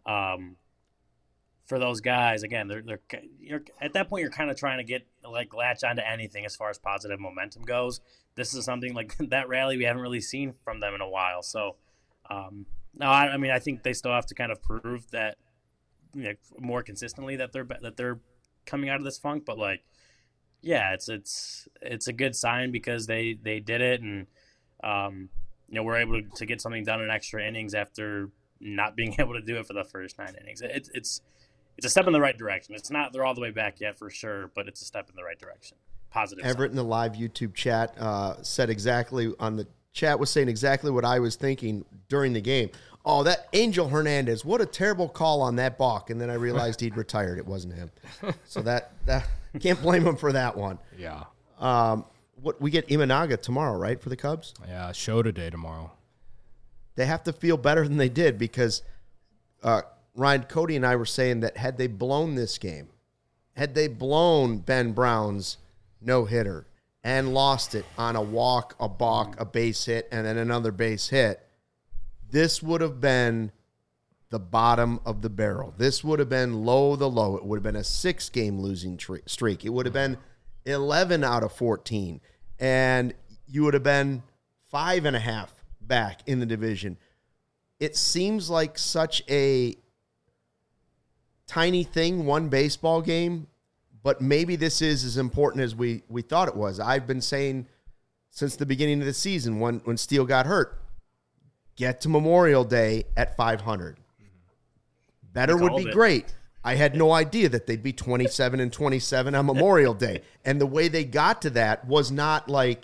for those guys, again, you're at that point, you're kind of trying to get latch onto anything as far as positive momentum goes. This is something that rally we haven't really seen from them in a while. So, I think they still have to kind of prove that more consistently that they're coming out of this funk, but yeah, it's a good sign because they did it, and we're able to get something done in extra innings after not being able to do it for the first 9 innings. It's a step in the right direction. It's not they're all the way back yet for sure, but it's a step in the right direction. Positive. Everett in the live YouTube chat said exactly on the chat was saying exactly what I was thinking during the game. Oh, that Angel Hernandez, what a terrible call on that balk. And then I realized he'd retired. It wasn't him. So that can't blame him for that one. Yeah. What we get Imanaga tomorrow, right, for the Cubs? Yeah, show today tomorrow. They have to feel better than they did because Ryan, Cody, and I were saying that had they blown this game, had they blown Ben Brown's no-hitter and lost it on a walk, a balk, a base hit, and then another base hit, this would have been the bottom of the barrel. This would have been low the low. It would have been a 6-game losing streak. It would have been 11 out of 14. And you would have been 5.5 back in the division. It seems like such a tiny thing, one baseball game, but maybe this is as important as we thought it was. I've been saying since the beginning of the season when Steele got hurt, get to Memorial Day at 500. Better would be great. I had no idea that they'd be 27-27 on Memorial Day. And the way they got to that was not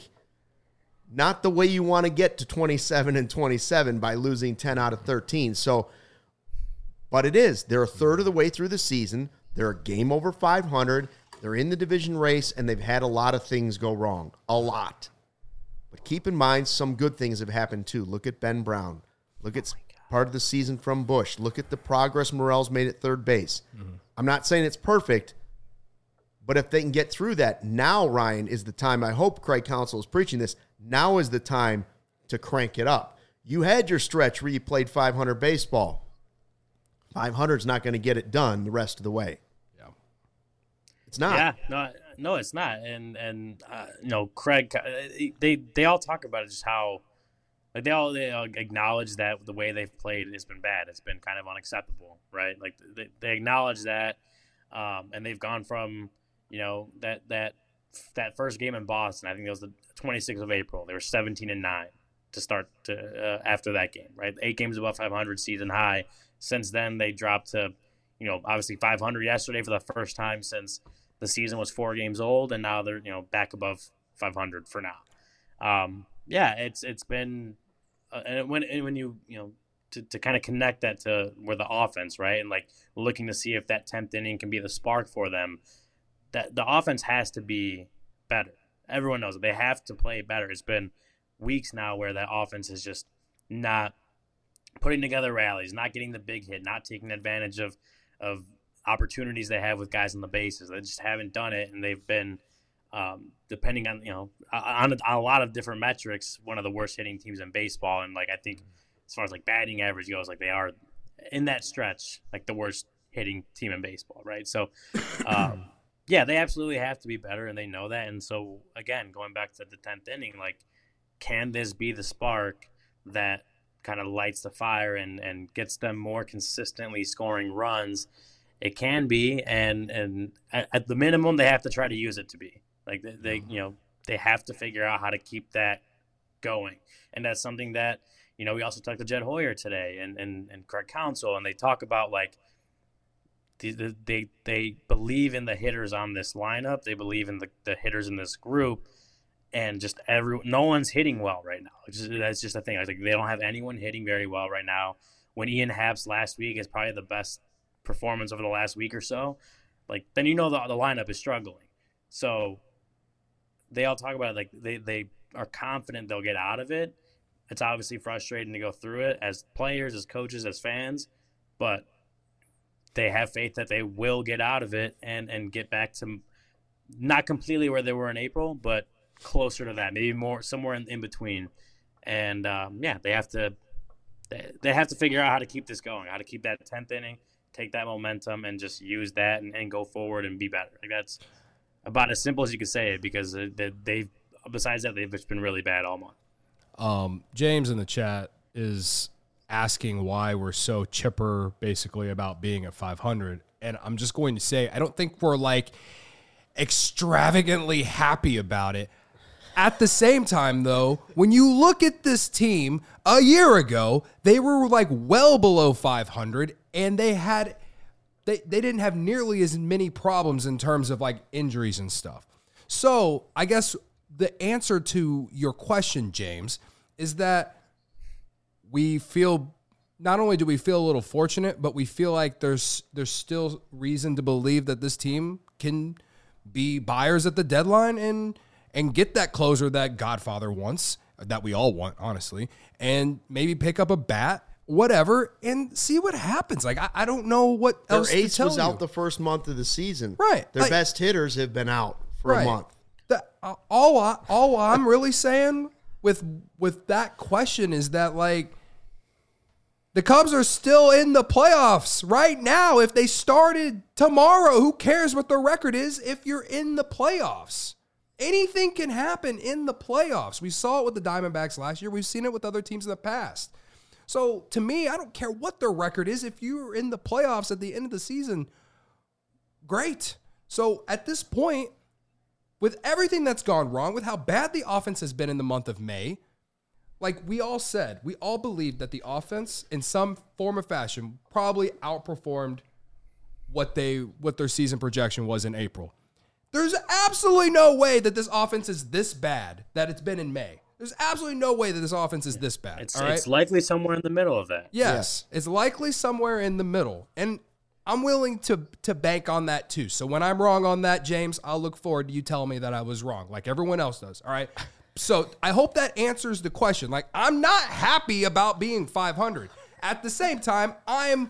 the way you want to get to 27-27 by losing 10 out of 13. So, but it is. They're a third of the way through the season. They're a game over 500. They're in the division race, and they've had a lot of things go wrong. A lot. But keep in mind, some good things have happened too. Look at Ben Brown. Look at part of the season from Bush. Look at the progress Morel's made at third base. Mm-hmm. I'm not saying it's perfect, but if they can get through that, now, Ryan, is the time. I hope Craig Counsell is preaching this. Now is the time to crank it up. You had your stretch where you played 500 baseball. 500 is not going to get it done the rest of the way. Yeah, it's not. Yeah, no, it's not. And Craig, they all talk about it, just how like they all acknowledge that the way they've played has been bad. It's been kind of unacceptable, right? Like they acknowledge that, and they've gone from that first game in Boston. I think it was the 26th of April. They were 17-9 to start after that game, right? 8 games above 500 season high. Since then, they dropped to, obviously 500 yesterday for the first time since the season was 4 games old, and now they're, back above 500 for now. It's been, and when you to kind of connect that to where the offense, right, and like looking to see if that 10th inning can be the spark for them, that the offense has to be better. Everyone knows it. They have to play better. It's been weeks now where that offense is just not putting together rallies, not getting the big hit, not taking advantage of opportunities they have with guys on the bases. They just haven't done it, and they've been, depending on on a lot of different metrics, one of the worst hitting teams in baseball. And like I think, as far as like batting average goes, like they are in that stretch, like the worst hitting team in baseball, right? So, they absolutely have to be better, and they know that. And so, again, going back to the 10th inning, like, can this be the spark that kind of lights the fire and gets them more consistently scoring runs? It can be, and at the minimum, they have to try to use it to be. Like, they have to figure out how to keep that going. And that's something that, we also talked to Jed Hoyer today and Craig Counsell, and they talk about, like, they believe in the hitters on this lineup. They believe in the hitters in this group, and just no one's hitting well right now. That's just a thing. Like they don't have anyone hitting very well right now. When Ian Happ's last week is probably the best performance over the last week or so, like then the lineup is struggling. So they all talk about it, like they are confident they'll get out of it. It's obviously frustrating to go through it as players, as coaches, as fans, but they have faith that they will get out of it and get back to not completely where they were in April, but closer to that, maybe more somewhere in between. And they have to figure out how to keep this going, how to keep that 10th inning, take that momentum, and just use that and go forward and be better. Like that's about as simple as you could say it, because they've besides that they've just been really bad all month. James in the chat is asking why we're so chipper basically about being at 500. And I'm just going to say, I don't think we're like extravagantly happy about it. At the same time, though, when you look at this team a year ago, they were like well below 500, and they didn't have nearly as many problems in terms of like injuries and stuff. So I guess the answer to your question, James, is that we feel, not only do we feel a little fortunate, but we feel like there's still reason to believe that this team can be buyers at the deadline and get that closer that Godfather wants, that we all want, honestly, and maybe pick up a bat, whatever, and see what happens. Like, I don't know what else to tell you. Their ace was out the first month of the season. Right. Their best hitters have been out for a month. All I'm really saying with that question is that, like, the Cubs are still in the playoffs right now. If they started tomorrow, who cares what the record is if you're in the playoffs? Anything can happen in the playoffs. We saw it with the Diamondbacks last year. We've seen it with other teams in the past. So, to me, I don't care what their record is. If you're in the playoffs at the end of the season, great. So, at this point, with everything that's gone wrong, with how bad the offense has been in the month of May, like we all said, we all believed that the offense, in some form or fashion, probably outperformed what their season projection was in April. There's absolutely no way that this offense is this bad that it's been in May. There's absolutely no way that this offense is this bad. It's likely somewhere in the middle of that. Yes, it's likely somewhere in the middle. And I'm willing to bank on that too. So when I'm wrong on that, James, I'll look forward to you telling me that I was wrong, like everyone else does. All right. So I hope that answers the question. Like, I'm not happy about being 500. At the same time, I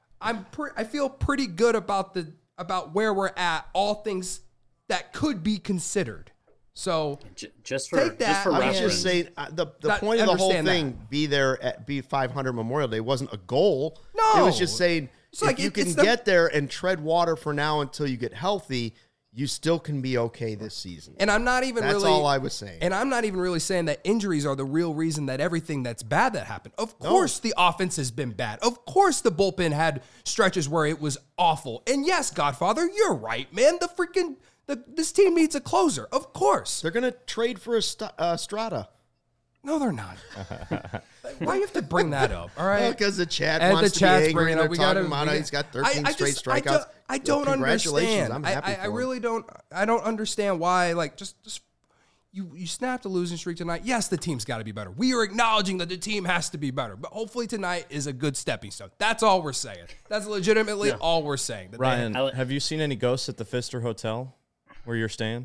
feel pretty good about where we're at, all things that could be considered. So just for take that. Just for I was reference. just saying the point of the whole thing, be 500 Memorial Day, wasn't a goal. No. It was just saying It's if like you can get there and tread water for now until you get healthy, you still can be okay this season. And I'm not even That's really all I was saying. And I'm not even really saying that injuries are the real reason that everything that's bad that happened. Of course the offense has been bad. Of course the bullpen had stretches where it was awful. And yes, Godfather, you're right, man. This team needs a closer. Of course. They're going to trade for a Strata. No, they're not. Why do you have to bring that up? All right, Because the chat And wants the to be chat's angry. bringing And up. they're talking about it. He's got 13 straight strikeouts. I don't Congratulations. understand. I'm happy I for really don't. I don't understand why. Like, just you snapped a losing streak tonight. Yes, the team's got to be better. We are acknowledging that the team has to be better, but hopefully tonight is a good stepping stone. That's all we're saying. That's legitimately all we're saying. Ryan, have you seen any ghosts at the Pfister Hotel where you're staying?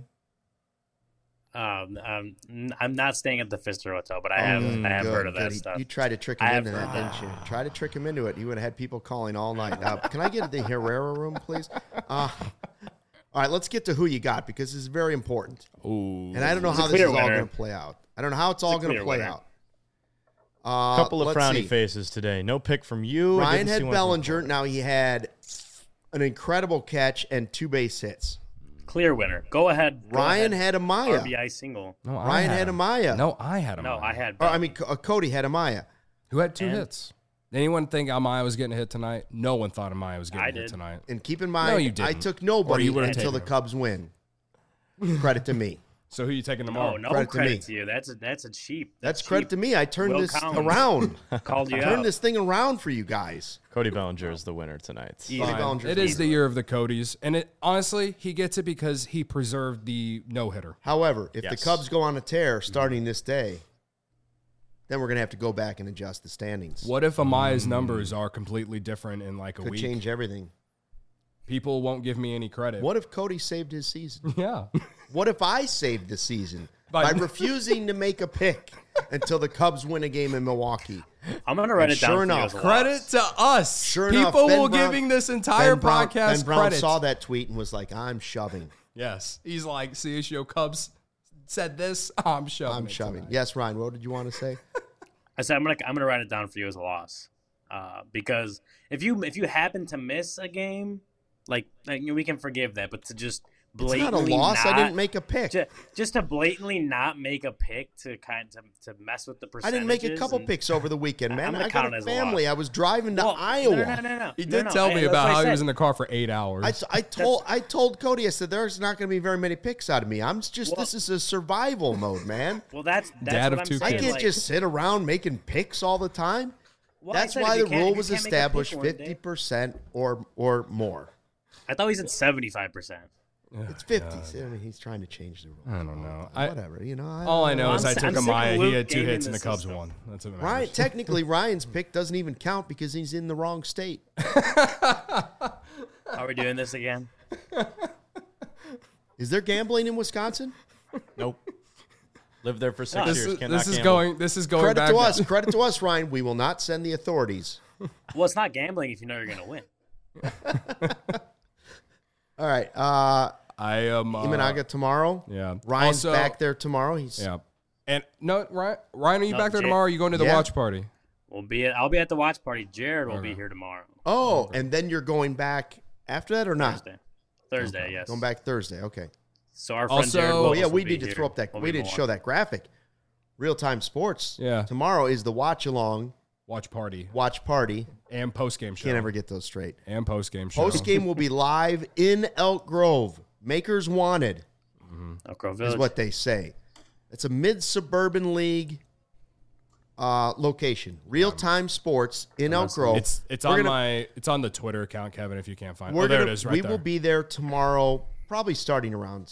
I'm not staying at the Pfister Hotel, but I have heard of that stuff. You tried to trick him into that, didn't you? Try to trick him into it. You would have had people calling all night. Can I get the Herrera room, please? All right, let's get to who you got because this is very important. Ooh. And I don't know how this is all going to play out. I don't know how it's all going to play out. Couple of frowny faces today. No pick from you. Ryan had Bellinger. Now he had an incredible catch and 2 base hits. Clear winner. Go ahead. Ryan had Amaya. RBI single. No, Ryan had Amaya. No, I had Amaya. No, I had. Cody had Amaya. Who had 2 hits? Anyone think Amaya was getting a hit tonight? No one thought Amaya was getting a hit tonight. And keep in mind, No, you didn't. I took nobody Or you until the Cubs win. Credit to me. So who are you taking tomorrow? No Credit to you. That's a cheap. That's credit cheap. to me. I turned Will this Collins around. Called you Turned out. this thing around for you guys. Cody Bellinger is the winner tonight. Easy. Cody Fine. Bellinger's It is easy. the year of the Codys, and honestly, he gets it because he preserved the no-hitter. However, if the Yes. Cubs go on a tear starting this day, then we're going to have to go back and adjust the standings. What if Amaya's numbers are completely different in like a Could week? change everything. People won't give me any credit. What if Cody saved his season? Yeah. What if I saved the season By- by refusing to make a pick until the Cubs win a game in Milwaukee? I'm gonna write it down. Sure for you enough, as a Credit loss. to us. Sure People enough, Ben will Brown- giving this entire Ben podcast Brown credit. saw that tweet and was like, I'm shoving. Yes. He's like, CSU Cubs said this, I'm shoving. I'm it shoving. tonight. Yes, Ryan, what did you want to say? I said I'm gonna write it down for you as a loss, because if you happen to miss a game, like we can forgive that, but to just It's not a blatantly loss. I didn't make a pick. Just to blatantly not make a pick to mess with the I percentages. didn't make a couple picks over the weekend, man. I'm gonna I got count it a as a family. loss. I was driving to Well, Iowa. No. He did tell me about how he was in the car for 8 hours. I told Cody, I said, there's not going to be very many picks out of me. This is a survival mode, man. Well, that's Dad what of I'm two saying. I can't like, just sit around making picks all the time. well, I That's said why if the you can't- rule if was you can't make a pick established one day- 50% or more. I thought he said 75%. It's 50. I mean, he's trying to change the rule. I don't know. Whatever. All I know is I I'm took sick of Amaya. He Luke had 2 gaming hits and the the Cubs system. won. That's what Ryan, matters. technically, Ryan's pick doesn't even count because he's in the wrong state. Are we doing this again? Is there gambling in Wisconsin? Nope. Lived there for 6 No, years. Cannot This is gamble. going Credit back to us. Credit to us, Ryan. We will not send the authorities. Well, it's not gambling if you know you're going to win. All right. I am Imanaga tomorrow. Yeah. Ryan's Also- back there tomorrow. He's Yeah. And no, Ryan, are you No, back there Jay- tomorrow? Or are you going to the Yeah. watch party? I'll be at the watch party. Jared will be here tomorrow. Oh, and then you're going back after that or not? Thursday, yes. Going back Thursday. Okay. So our friend Also- Jared Oh, Oh Willis yeah, will we be need to here. throw up that. We'll We be need to show that graphic. Real time sports. Yeah. Tomorrow is the watch along, Watch party watch party. and post game show. Can't ever get those straight. And post game show. Post game will be live in Elk Grove. Makers wanted Elk Grove is Village. what they say. It's a mid-suburban league location. Real time sports in Elk Grove. It's We're on gonna- it's on the Twitter account, Kevin. If you can't find it, We're there gonna, it is. Right we there. will be there tomorrow, probably starting around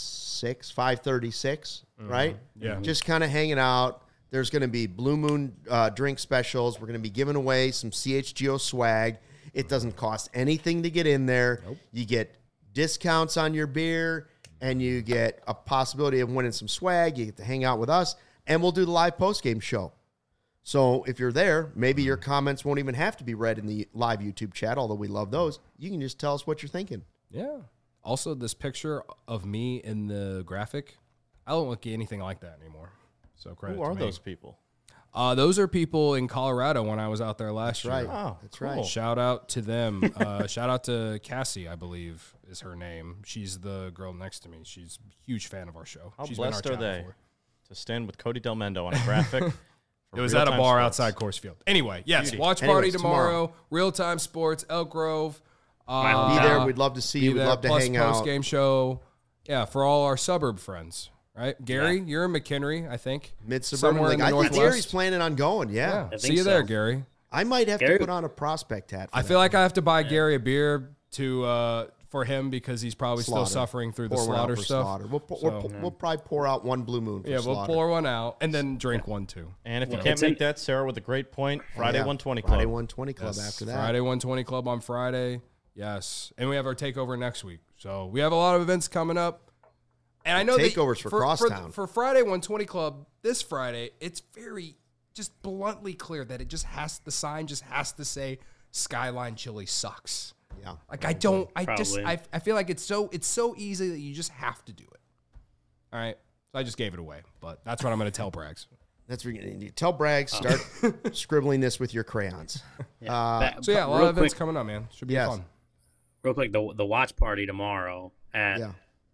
5:36, right? Yeah. Just kind of hanging out. There's going to be Blue Moon drink specials. We're going to be giving away some CHGO swag. It doesn't cost anything to get in there. Nope. You get discounts on your beer, and you get a possibility of winning some swag. You get to hang out with us, and we'll do the live post-game show. So if you're there, maybe your comments won't even have to be read in the live YouTube chat, although we love those. You can just tell us what you're thinking. Yeah. Also, this picture of me in the graphic, I don't look anything like that anymore. So credit Who to are me. those people? Those are people in Colorado when I was out there last Right. year. Oh, That's cool. right. Shout out to them. Shout out to Cassie, I believe is her name. She's the girl next to me. She's a huge fan of our show. How She's been blessed our are chat they before. to stand with Cody Del Mendo on a graphic? It was at a bar outside Coors Field. Anyway, yes, Beauty. watch party Anyways, tomorrow. Real time sports, Elk Grove. Be there. We'd love to see you. We'd love to plus hang out. post game show. Yeah, for all our suburb friends, right? Gary, you're in McHenry, I think. Mid-suburban Somewhere in league. the I think Northwest. Gary's planning on going. Yeah. Yeah, I see think you there, so. Gary. I might have Gary- to put on a prospect hat. For I that. feel like I have to buy Gary a beer to for him because he's probably Slaughter. still suffering through the Pour one out slaughter for stuff. Slaughter. We'll So- we'll probably pour out one Blue Moon for Yeah, we'll Slaughter. pour one out and then drink one too. And if you Well, can't it's make in- that, Sarah with a great point, Friday Yeah. 120 Club. Friday 120 Club Yes, after that. Friday 120 Club on Friday. Yes. And we have our takeover next week. So we have a lot of events coming up. And I know Takeovers for Crosstown. For Friday 120 Club this Friday, it's very just bluntly clear that the sign just has to say Skyline Chili sucks. Yeah. Like I feel like it's so easy that you just have to do it. All right. So I just gave it away, but that's what I'm going to tell Braggs. That's what you tell Bragg. Start scribbling this with your crayons. So yeah, a lot Real of events quick- coming up, man. Should be Yes. fun. Real quick, the watch party tomorrow at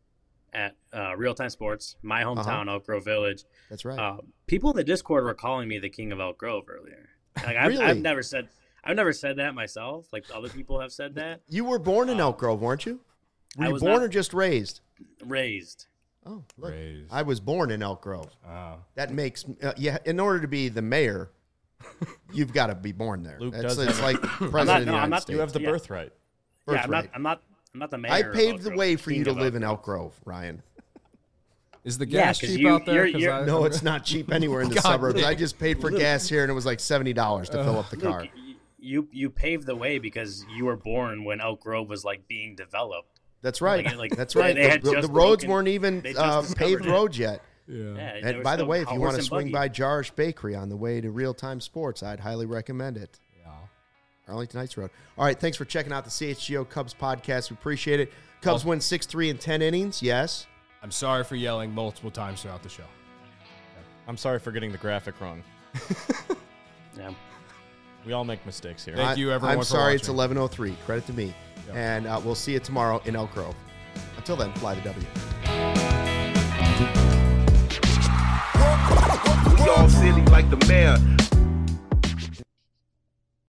Real Time Sports, my hometown, Elk Grove Village. That's right. People in the Discord were calling me the king of Elk Grove earlier. Like Really? I've never said that myself. Like other people have said that. You were born in Elk Grove, weren't you? Were I you was born not- or just raised? Raised. Oh, look. Raised. I was born in Elk Grove. Oh. That makes in order to be the mayor, you've got to be born there. Luke It's does have like president of the I'm United not- States. You have the Yeah. birthright. Yeah, Birthright. I'm not the mayor. I of paved Elk the Grove, way for you king to of live in Grove. Elk Grove, Ryan. Is the Yeah, gas 'cause cheap you- out there? you're- 'Cause you're- No, it's not cheap anywhere in the God, suburbs. Luke. I just paid for gas here, and it was like $70 to fill up the car. Luke, you paved the way because you were born when Elk Grove was like being developed. That's right. Like, That's they- right. they had The just roads broken- weren't even they just paved discovered it. roads yet. Yeah. Yeah, they And were by the still way, if you horse want to and swing buggy. by Jarish Bakery on the way to Real Time Sports, I'd highly recommend it. Yeah. Arlington Heights Road. All right, thanks for checking out the CHGO Cubs podcast. We appreciate it. Cubs win 6-3 in 10 innings. Yes. I'm sorry for yelling multiple times throughout the show. I'm sorry for getting the graphic wrong. Yeah. We all make mistakes here. Thank you, everyone, I'm for sorry it's watching. 11:03. Credit to me. And we'll see you tomorrow in Elk Grove. Until Till then, fly the W. We all silly like the mayor.